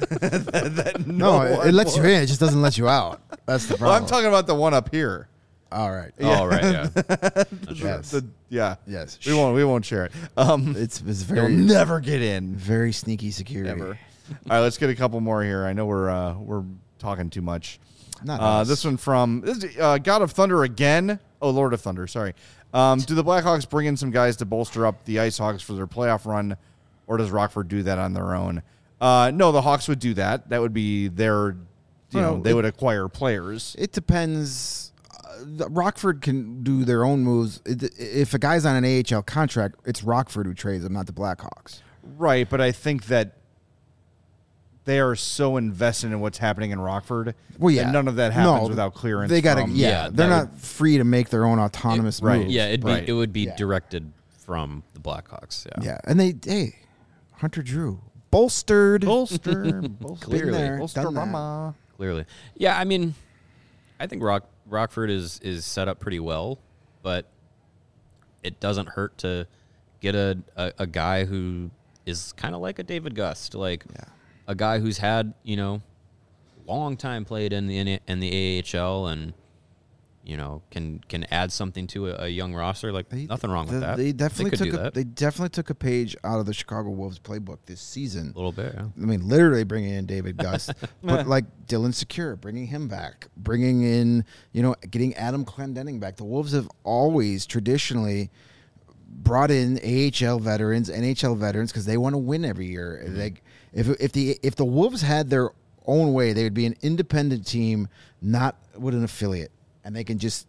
that no, it, one it lets you will- in. It just doesn't let you out. That's the Well, problem. I'm talking about the one up here. All right. Oh, right. Yeah. Yes. The- yeah. Yes. We won't. We won't share it. Um, It's, it's You'll very, never get in. very sneaky security. Ever. All right, let's get a couple more here. I know we're uh, we're talking too much. Not Uh, us. this one from this is, uh, God of Thunder again. Oh, Lord of Thunder. Sorry. Um, do the Blackhawks bring in some guys to bolster up the Ice Hawks for their playoff run, or does Rockford do that on their own? Uh, no, the Hawks would do that. That would be their. You Well, know, they it- would acquire players. It depends. Uh, the- Rockford can do their own moves. It, if a guy's on an A H L contract, it's Rockford who trades him, not the Blackhawks. Right, but I think that they are so invested in what's happening in Rockford. Well, yeah, that none of that happens No, without clearance. They got to, from- yeah, Yeah, they're that not free to make their own autonomous right, moves. Yeah, it'd be Right. it would be Yeah. directed from the Blackhawks. Yeah. yeah, and they, hey, Hunter Drew bolstered. Bolster, bolster, Been there, bolster, done that. mama. Clearly. Yeah, I mean, I think Rock Rockford is is set up pretty well, but it doesn't hurt to get a a, a guy who is kind of like a David Gust, like Yeah. a guy who's had, you know, long time played in the in the A H L and you know, can can add something to a, a young roster. Like They- nothing wrong with the- that. They definitely could took do a, that. they definitely took a page out of the Chicago Wolves playbook this season. a little bit. Yeah. I mean, literally bringing in David Gus, but like Dylan Secure, bringing him back, bringing in, you know, getting Adam Clendenning back. The Wolves have always traditionally brought in A H L veterans, N H L veterans, because they want to win every year. Mm-hmm. Like if if the if the Wolves had their own way, they would be an independent team, not with an affiliate, and they can just.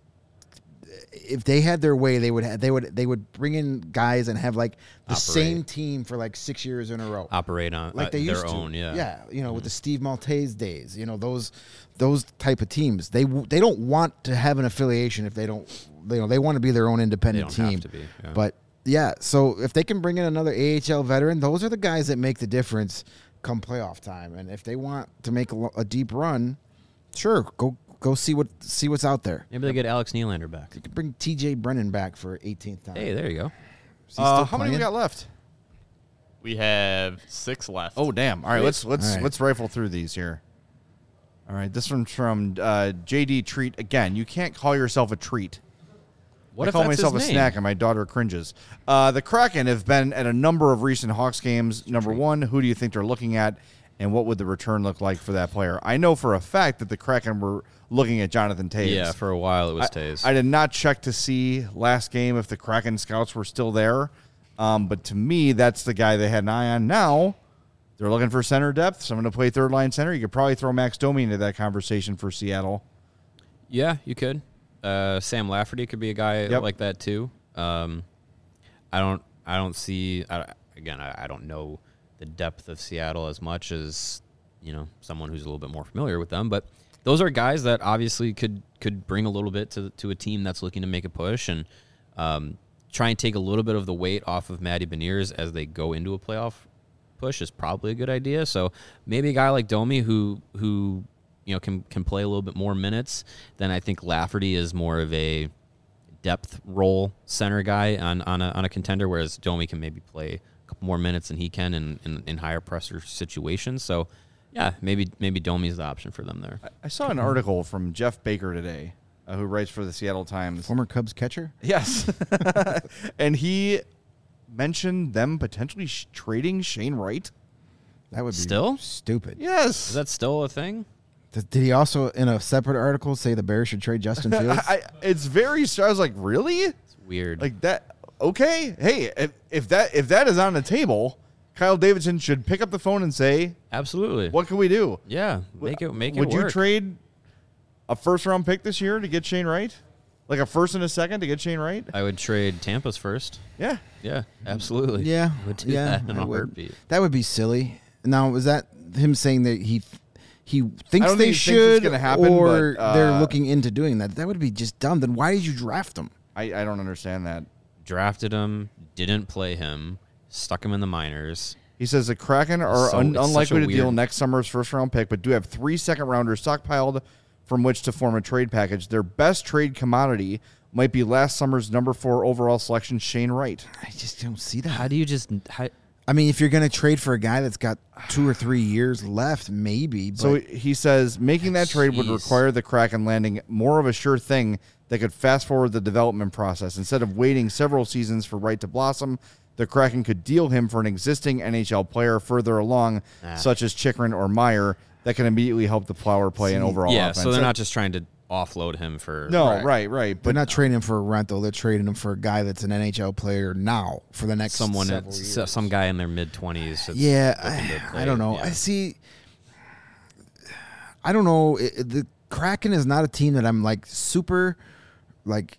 If they had their way, they would have, they would they would bring in guys and have like the Operate. same team for like six years in a row Operate on like uh, they their used to. own. Yeah. yeah, you know, with the Steve Maltese days, you know, those those type of teams. They w- they don't want to have an affiliation if they don't, you know, they want to be their own independent They don't team. have to be, yeah. But yeah, so if they can bring in another A H L veteran, those are the guys that make the difference come playoff time. And if they want to make a, lo- a deep run, sure, go go see what see what's out there. Maybe they get Alex Nylander back. You could bring T J Brennan back for eighteenth time. Hey, there you go. Is he Uh, still how many we playing? got left? We have six left. Oh damn! All right, let's let's All right. let's rifle through these here. All right, this one's from uh, J D Treat again. You can't call yourself a treat. What I if call that's myself his a name? snack, and my daughter cringes. Uh, the Kraken have been at a number of recent Hawks games. Number one, who do you think they're looking at, and what would the return look like for that player? I know for a fact that the Kraken were looking at Jonathan Toews. Yeah, for a while it was I, Tays. I did not check to see last game if the Kraken scouts were still there, um, but to me, that's the guy they had an eye on. Now they're looking for center depth. Someone to play third line center. You could probably throw Max Domi into that conversation for Seattle. Yeah, you could. Uh, Sam Lafferty could be a guy Yep. like that too. Um, I don't. I don't see. I, again, I, I don't know the depth of Seattle as much as you know someone who's a little bit more familiar with them. But those are guys that obviously could could bring a little bit to to a team that's looking to make a push and um, try and take a little bit of the weight off of Matty Beniers as they go into a playoff push is probably a good idea. So maybe a guy like Domi who who. you know, can can play a little bit more minutes, then I think Lafferty is more of a depth role center guy on, on, a, on a contender, whereas Domi can maybe play a couple more minutes than he can in, in, in higher pressure situations. So, yeah, maybe maybe Domi's the option for them there. I saw an article from Jeff Baker today, uh, who writes for the Seattle Times. Former Cubs catcher? Yes. And he mentioned them potentially sh- trading Shane Wright. That would be Still? stupid. Yes. Is that still a thing? Did did he also, in a separate article, say the Bears should trade Justin Fields? I, I, it's very. I was like, really? It's weird. Like that? Okay. Hey, if, if that if that is on the table, Kyle Davidson should pick up the phone and say, Absolutely. "What can we do? Yeah, make it make Would it you work. trade a first round pick this year to get Shane Wright? Like a first and a second to get Shane Wright? I would trade Tampa's first. Yeah. Yeah, absolutely. yeah. I would do yeah, that in I a would. heartbeat. That would be silly. Now, was that him saying that he he thinks don't they think he thinks it's should, gonna happen, or but, uh, they're looking into doing that? That would be just dumb. Then why did you draft him? I, I don't understand that. Drafted him, didn't play him, stuck him in the minors. He says the Kraken are So- un- it's such unlikely a to deal weird- next summer's first round pick, but do have three second rounders stockpiled from which to form a trade package. Their best trade commodity might be last summer's number four overall selection, Shane Wright. I just don't see that. How do you just? How, I mean, if you're going to trade for a guy that's got two or three years left, maybe. But So he says making that trade would Jeez. require the Kraken landing more of a sure thing that could fast forward the development process. Instead of waiting several seasons for Wright to blossom, the Kraken could deal him for an existing N H L player further along, Ah. such as Chikrin or Meyer, that can immediately help the Flower play an See, overall yeah, offense. so they're not just trying to offload him for. No, Right. right, right. they're But not trading him for a rental. They're trading him for a guy that's an N H L player now for the next someone, several s- years. some guy in their mid twenties. Yeah, I, I don't know. I see. I don't know. It, it- the Kraken is not a team that I'm like super, like,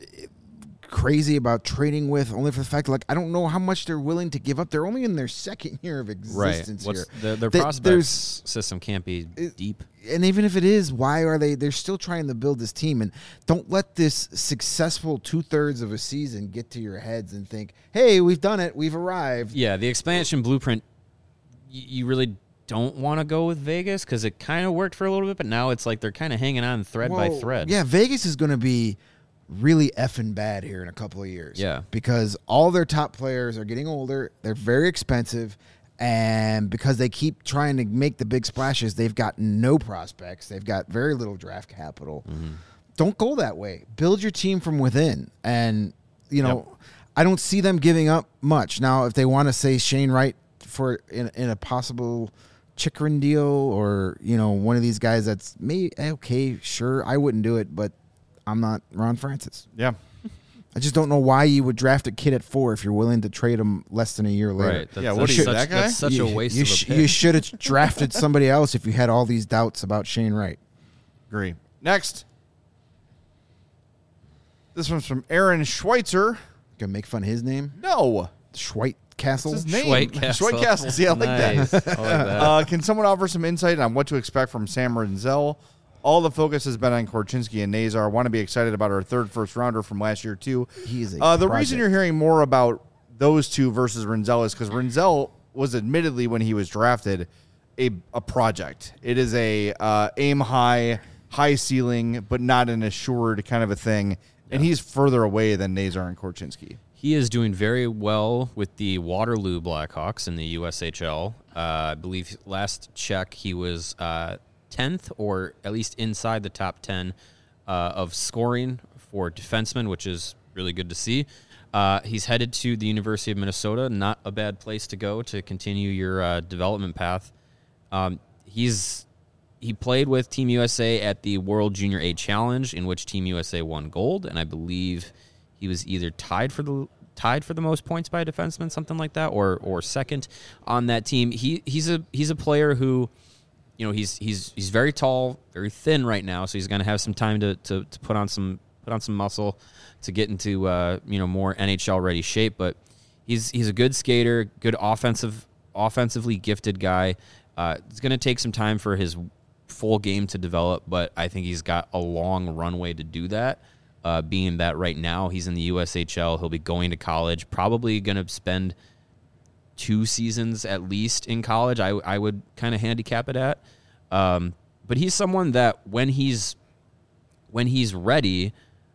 crazy about trading with. Only for the fact, like, I don't know how much they're willing to give up. They're only in their second year of Right. existence What's here. their, their Th- prospects there's- system can't be It- deep. And even if it is, why are they? They're still trying to build this team, and don't let this successful two thirds of a season get to your heads and think, "Hey, we've done it. We've arrived." Yeah, the expansion blueprint. y- You really don't want to go with Vegas because it kind of worked for a little bit, but now it's like they're kind of hanging on thread by Well, thread. Yeah, Vegas is going to be really effing bad here in a couple of years. Yeah. Because all their top players are getting older. They're very expensive. And because they keep trying to make the big splashes, they've got no prospects. They've got very little draft capital. Mm-hmm. don't go that way. Build your team from within. And, you know, Yep. I don't see them giving up much. Now, if they want to say Shane Wright for in, in a possible Chikrin deal or, you know, one of these guys that's, may, okay, sure, I wouldn't do it, but I'm not Ron Francis. Yeah. I just don't know why you would draft a kid at four if you're willing to trade him less than a year later. Right. That's, Yeah, what that's are you, such, that guy? That's such you, a waste you of a sh- pick. You should have drafted somebody else if you had all these doubts about Shane Wright. Agree. Next. This one's from Aaron Schweitzer. Gonna make fun of his name? No. Schweit Castle? What's his name? Schweitcastle. Schweitcastle. See, I like Nice. that. I like that. Uh, can someone offer some insight on what to expect from Sam Renzel? All the focus has been on Korchinski and Nazar. I want to be excited about our third first rounder from last year, too. He is a uh, the project. reason you're hearing more about those two versus Renzel is because Renzel was admittedly, when he was drafted, a, a project. It is a uh, aim high, high ceiling, but not an assured kind of a thing. And he's further away than Nazar and Korchinski. He is doing very well with the Waterloo Blackhawks in the U S H L. Uh, I believe last check he was uh, tenth or at least inside the top ten uh, of scoring for defensemen, which is really good to see. Uh, he's headed to the University of Minnesota, not a bad place to go to continue your uh, development path. Um, he's he played with Team U S A at the World Junior A Challenge, in which Team U S A won gold, and I believe he was either tied for the tied for the most points by a defenseman, something like that, or or second on that team. He he's a he's a player who, you know, he's he's he's very tall, very thin right now, so he's going to have some time to, to to put on some put on some muscle to get into uh, you know, more N H L ready shape. But he's he's a good skater, good offensive offensively gifted guy. Uh, it's going to take some time for his full game to develop, but I think he's got a long runway to do that. Uh, being that right now he's in the U S H L, he'll be going to college, probably going to spend two seasons at least in college. I, I would kind of handicap it at. Um, but he's someone that when he's when he's ready,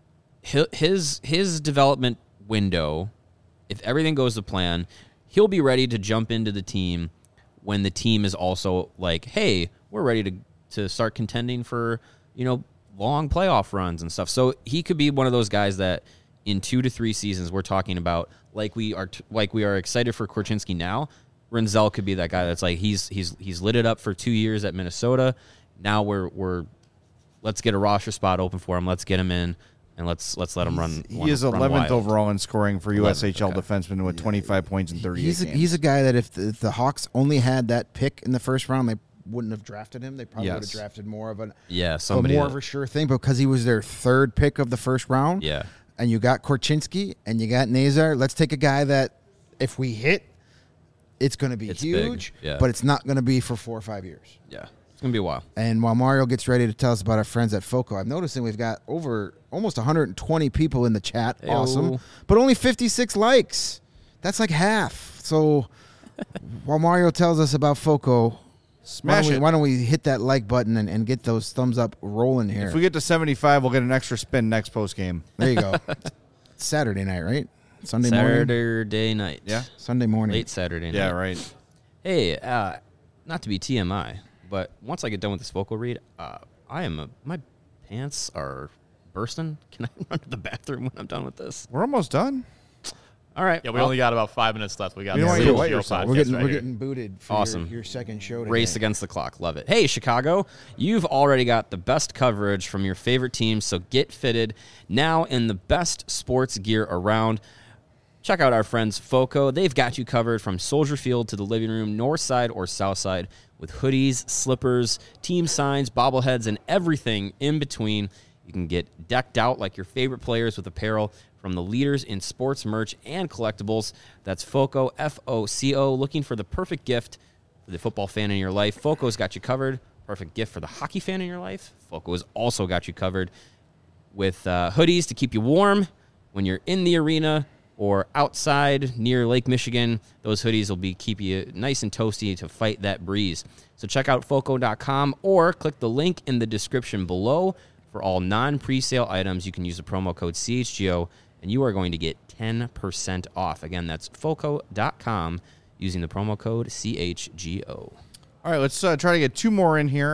his his development window, if everything goes to plan, he'll be ready to jump into the team when the team is also like, hey, we're ready to to start contending for, you know, long playoff runs and stuff. So he could be one of those guys that in two to three seasons we're talking about, like we are t- like we are excited for Korchinski now. Renzel could be that guy that's like he's he's he's lit it up for two years at Minnesota. Now we're we're let's get a roster spot open for him. Let's get him in and let's let's let him run. He run, is run eleventh wild. overall in scoring for U S H L okay. defensemen with twenty-five points in thirty-eight He's a, games. he's a guy that if the, if the Hawks only had that pick in the first round, they wouldn't have drafted him. They probably would have Yes. drafted more of an Yeah, a somebody. more that- of a sure thing because he was their third pick of the first round. yeah. And you got Korchinski and you got Nazar. Let's take a guy that if we hit, it's going to be It's huge, big, yeah. but it's not going to be for four or five years. Yeah. It's gonna be a while. And while Mario gets ready to tell us about our friends at FOCO, I'm noticing we've got over almost one hundred twenty people in the chat. Ayo. Awesome. But only fifty-six likes. That's like half. So while Mario tells us about FOCO, why Smash don't, we, it. why don't we hit that like button and, and get those thumbs up rolling here? If we get to seventy-five, we'll get an extra spin next post game. there you go. It's Saturday night, right? Sunday morning? Saturday night. Yeah. Sunday morning. Late Saturday night. Yeah, right. Hey, uh, not to be T M I, but once I get done with this vocal read, uh, I am a, my pants are bursting. Can I run to the bathroom when I'm done with this? We're almost done. All right. Yeah, we well, only got about five minutes left. We got You don't the want you to Zero wet Geo yourself. podcast We're getting right we're here. getting booted for Awesome. your, your second show today. race against the clock. Love it. Hey, Chicago, you've already got the best coverage from your favorite teams, so get fitted now in the best sports gear around. Check out our friends FOCO. They've got you covered from Soldier Field to the living room, north side or south side, with hoodies, slippers, team signs, bobbleheads, and everything in between. You can get decked out like your favorite players with apparel from the leaders in sports merch and collectibles. That's FOCO, F O C O. Looking for the perfect gift for the football fan in your life, FOCO's got you covered. Perfect gift for the hockey fan in your life, FOCO has also got you covered with uh, hoodies to keep you warm when you're in the arena or outside near Lake Michigan. Those hoodies will be keep you nice and toasty to fight that breeze. So check out foco dot com or click the link in the description below. For all non-presale items, you can use the promo code C H G O, and you are going to get ten percent off. Again, that's foco dot com using the promo code C H G O. All right, let's uh, try to get two more in here.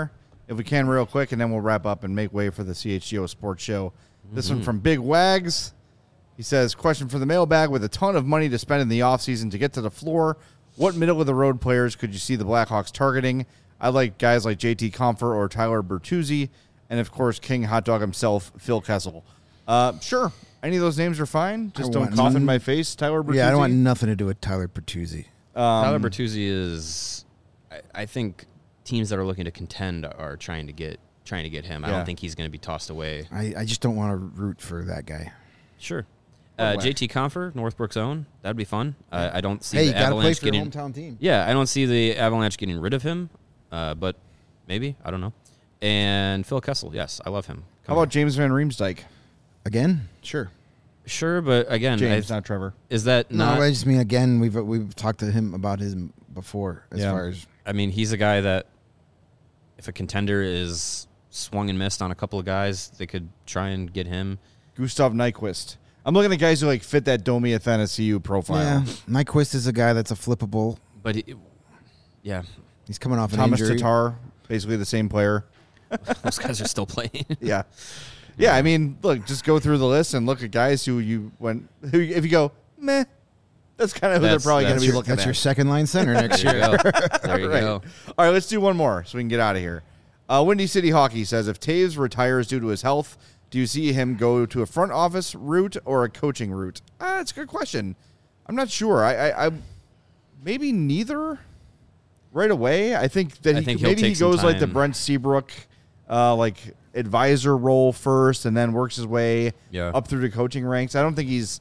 if we can real quick, and then we'll wrap up and make way for the C H G O Sports Show. This one from Big Wags. He says, question for the mailbag. With a ton of money to spend in the offseason to get to the floor, what middle-of-the-road players could you see the Blackhawks targeting? I like guys like J T Compher or Tyler Bertuzzi, and, of course, King Hot Dog himself, Phil Kessel. Uh, sure. Any of those names are fine. Just I don't want cough in none. my face, Tyler Bertuzzi. Yeah, I don't want nothing to do with Tyler Bertuzzi. Um, Tyler Bertuzzi is, I, I think teams that are looking to contend are trying to get trying to get him. I Yeah. don't think he's going to be tossed away. I, I just don't want to root for that guy. Sure. Uh, J T Compher, Northbrook's own. That'd be fun. Uh, I don't see Hey, you the got to play Avalanche for your getting. hometown team. Yeah, I don't see the Avalanche getting rid of him, uh, but maybe. I don't know. And Phil Kessel, yes, I love him. How about James Van Riemsdyk? Again? Sure. Sure, but again, James, I, not Trevor. is that No, not? I just mean, again, we've we've talked to him about him before as Yeah. far as. I mean, he's a guy that if a contender is swung and missed on a couple of guys, they could try and get him. Gustav Nyquist. I'm looking at guys who like fit that Domi Athanasiou profile. Yeah, Nyquist is a guy that's a flippable. But he, yeah, He's coming off an Thomas injury. Tatar, basically the same player. those guys are still playing. Yeah. Yeah, I mean, look, just go through the list and look at guys who you went who if you go, meh, that's kind of who That's- they're probably going that's to be Your- looking that's at. your second line center next There year. you go. There you Right. go. All right, let's do one more so we can get out of here. Uh, Windy City Hockey says, if Taves retires due to his health, do you see him go to a front office route or a coaching route? Uh, that's a good question. I'm not sure. I, I, I maybe neither right away. I think that I he think could- he'll maybe he take some goes like the time. Brent Seabrook, uh, like advisor role first, and then works his way Yeah. up through the coaching ranks. I don't think he's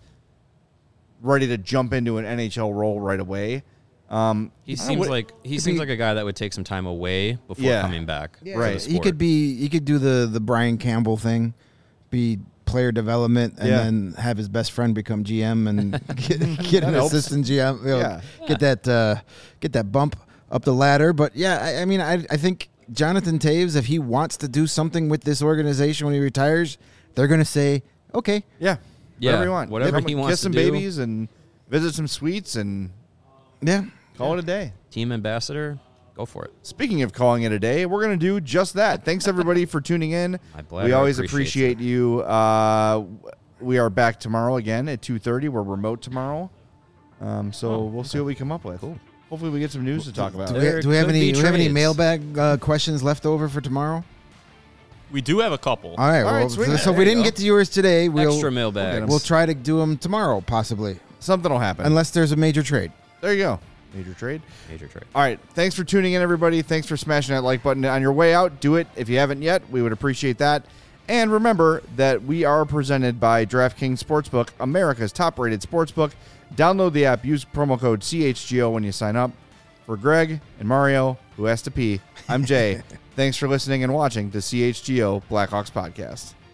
ready to jump into an N H L role right away. Um, He I don't seems know, like he if seems he- like a guy that would take some time away before Yeah. coming back. Yeah, for Right. the He sport. could be. He could do the the Brian Campbell thing, be player development, and Yeah. then have his best friend become G M and get, get an That helps. assistant G M. You know, Yeah. Get that uh, get that bump up the ladder. But yeah, I, I mean, I I think Jonathan Taves, if he wants to do something with this organization when he retires, they're going to say, okay, Yeah. Yeah, Whatever you want. whatever Come- he wants Kiss to some do. babies and visit some suites and yeah. call it a day. Team ambassador, go for it. Speaking of calling it a day, we're going to do just that. Thanks, everybody, for tuning in. My pleasure. We always Appreciate appreciate you. Uh, we are back tomorrow again at two thirty. We're remote tomorrow. Um, so Oh, we'll see what we come up with. Cool. Hopefully we get some news to talk about. Do we, There do we have could any be do we have any trades. mailbag uh, questions left over for tomorrow? We do have a couple. All right. All right, well, sweet. so, so There if we you didn't go. get to yours today, we'll Extra get mailbag. 'em. we'll try to do them tomorrow, possibly, Something will happen. unless there's a major trade. there you go. Major trade. Major trade. All right. Thanks for tuning in, everybody. Thanks for smashing that like button on your way out. Do it if you haven't yet. We would appreciate that. And remember that we are presented by DraftKings Sportsbook, America's top-rated sportsbook. Download the app. Use promo code C H G O when you sign up. For Greg and Mario, who has to pee, I'm Jay. Thanks for listening and watching the C H G O Blackhawks podcast.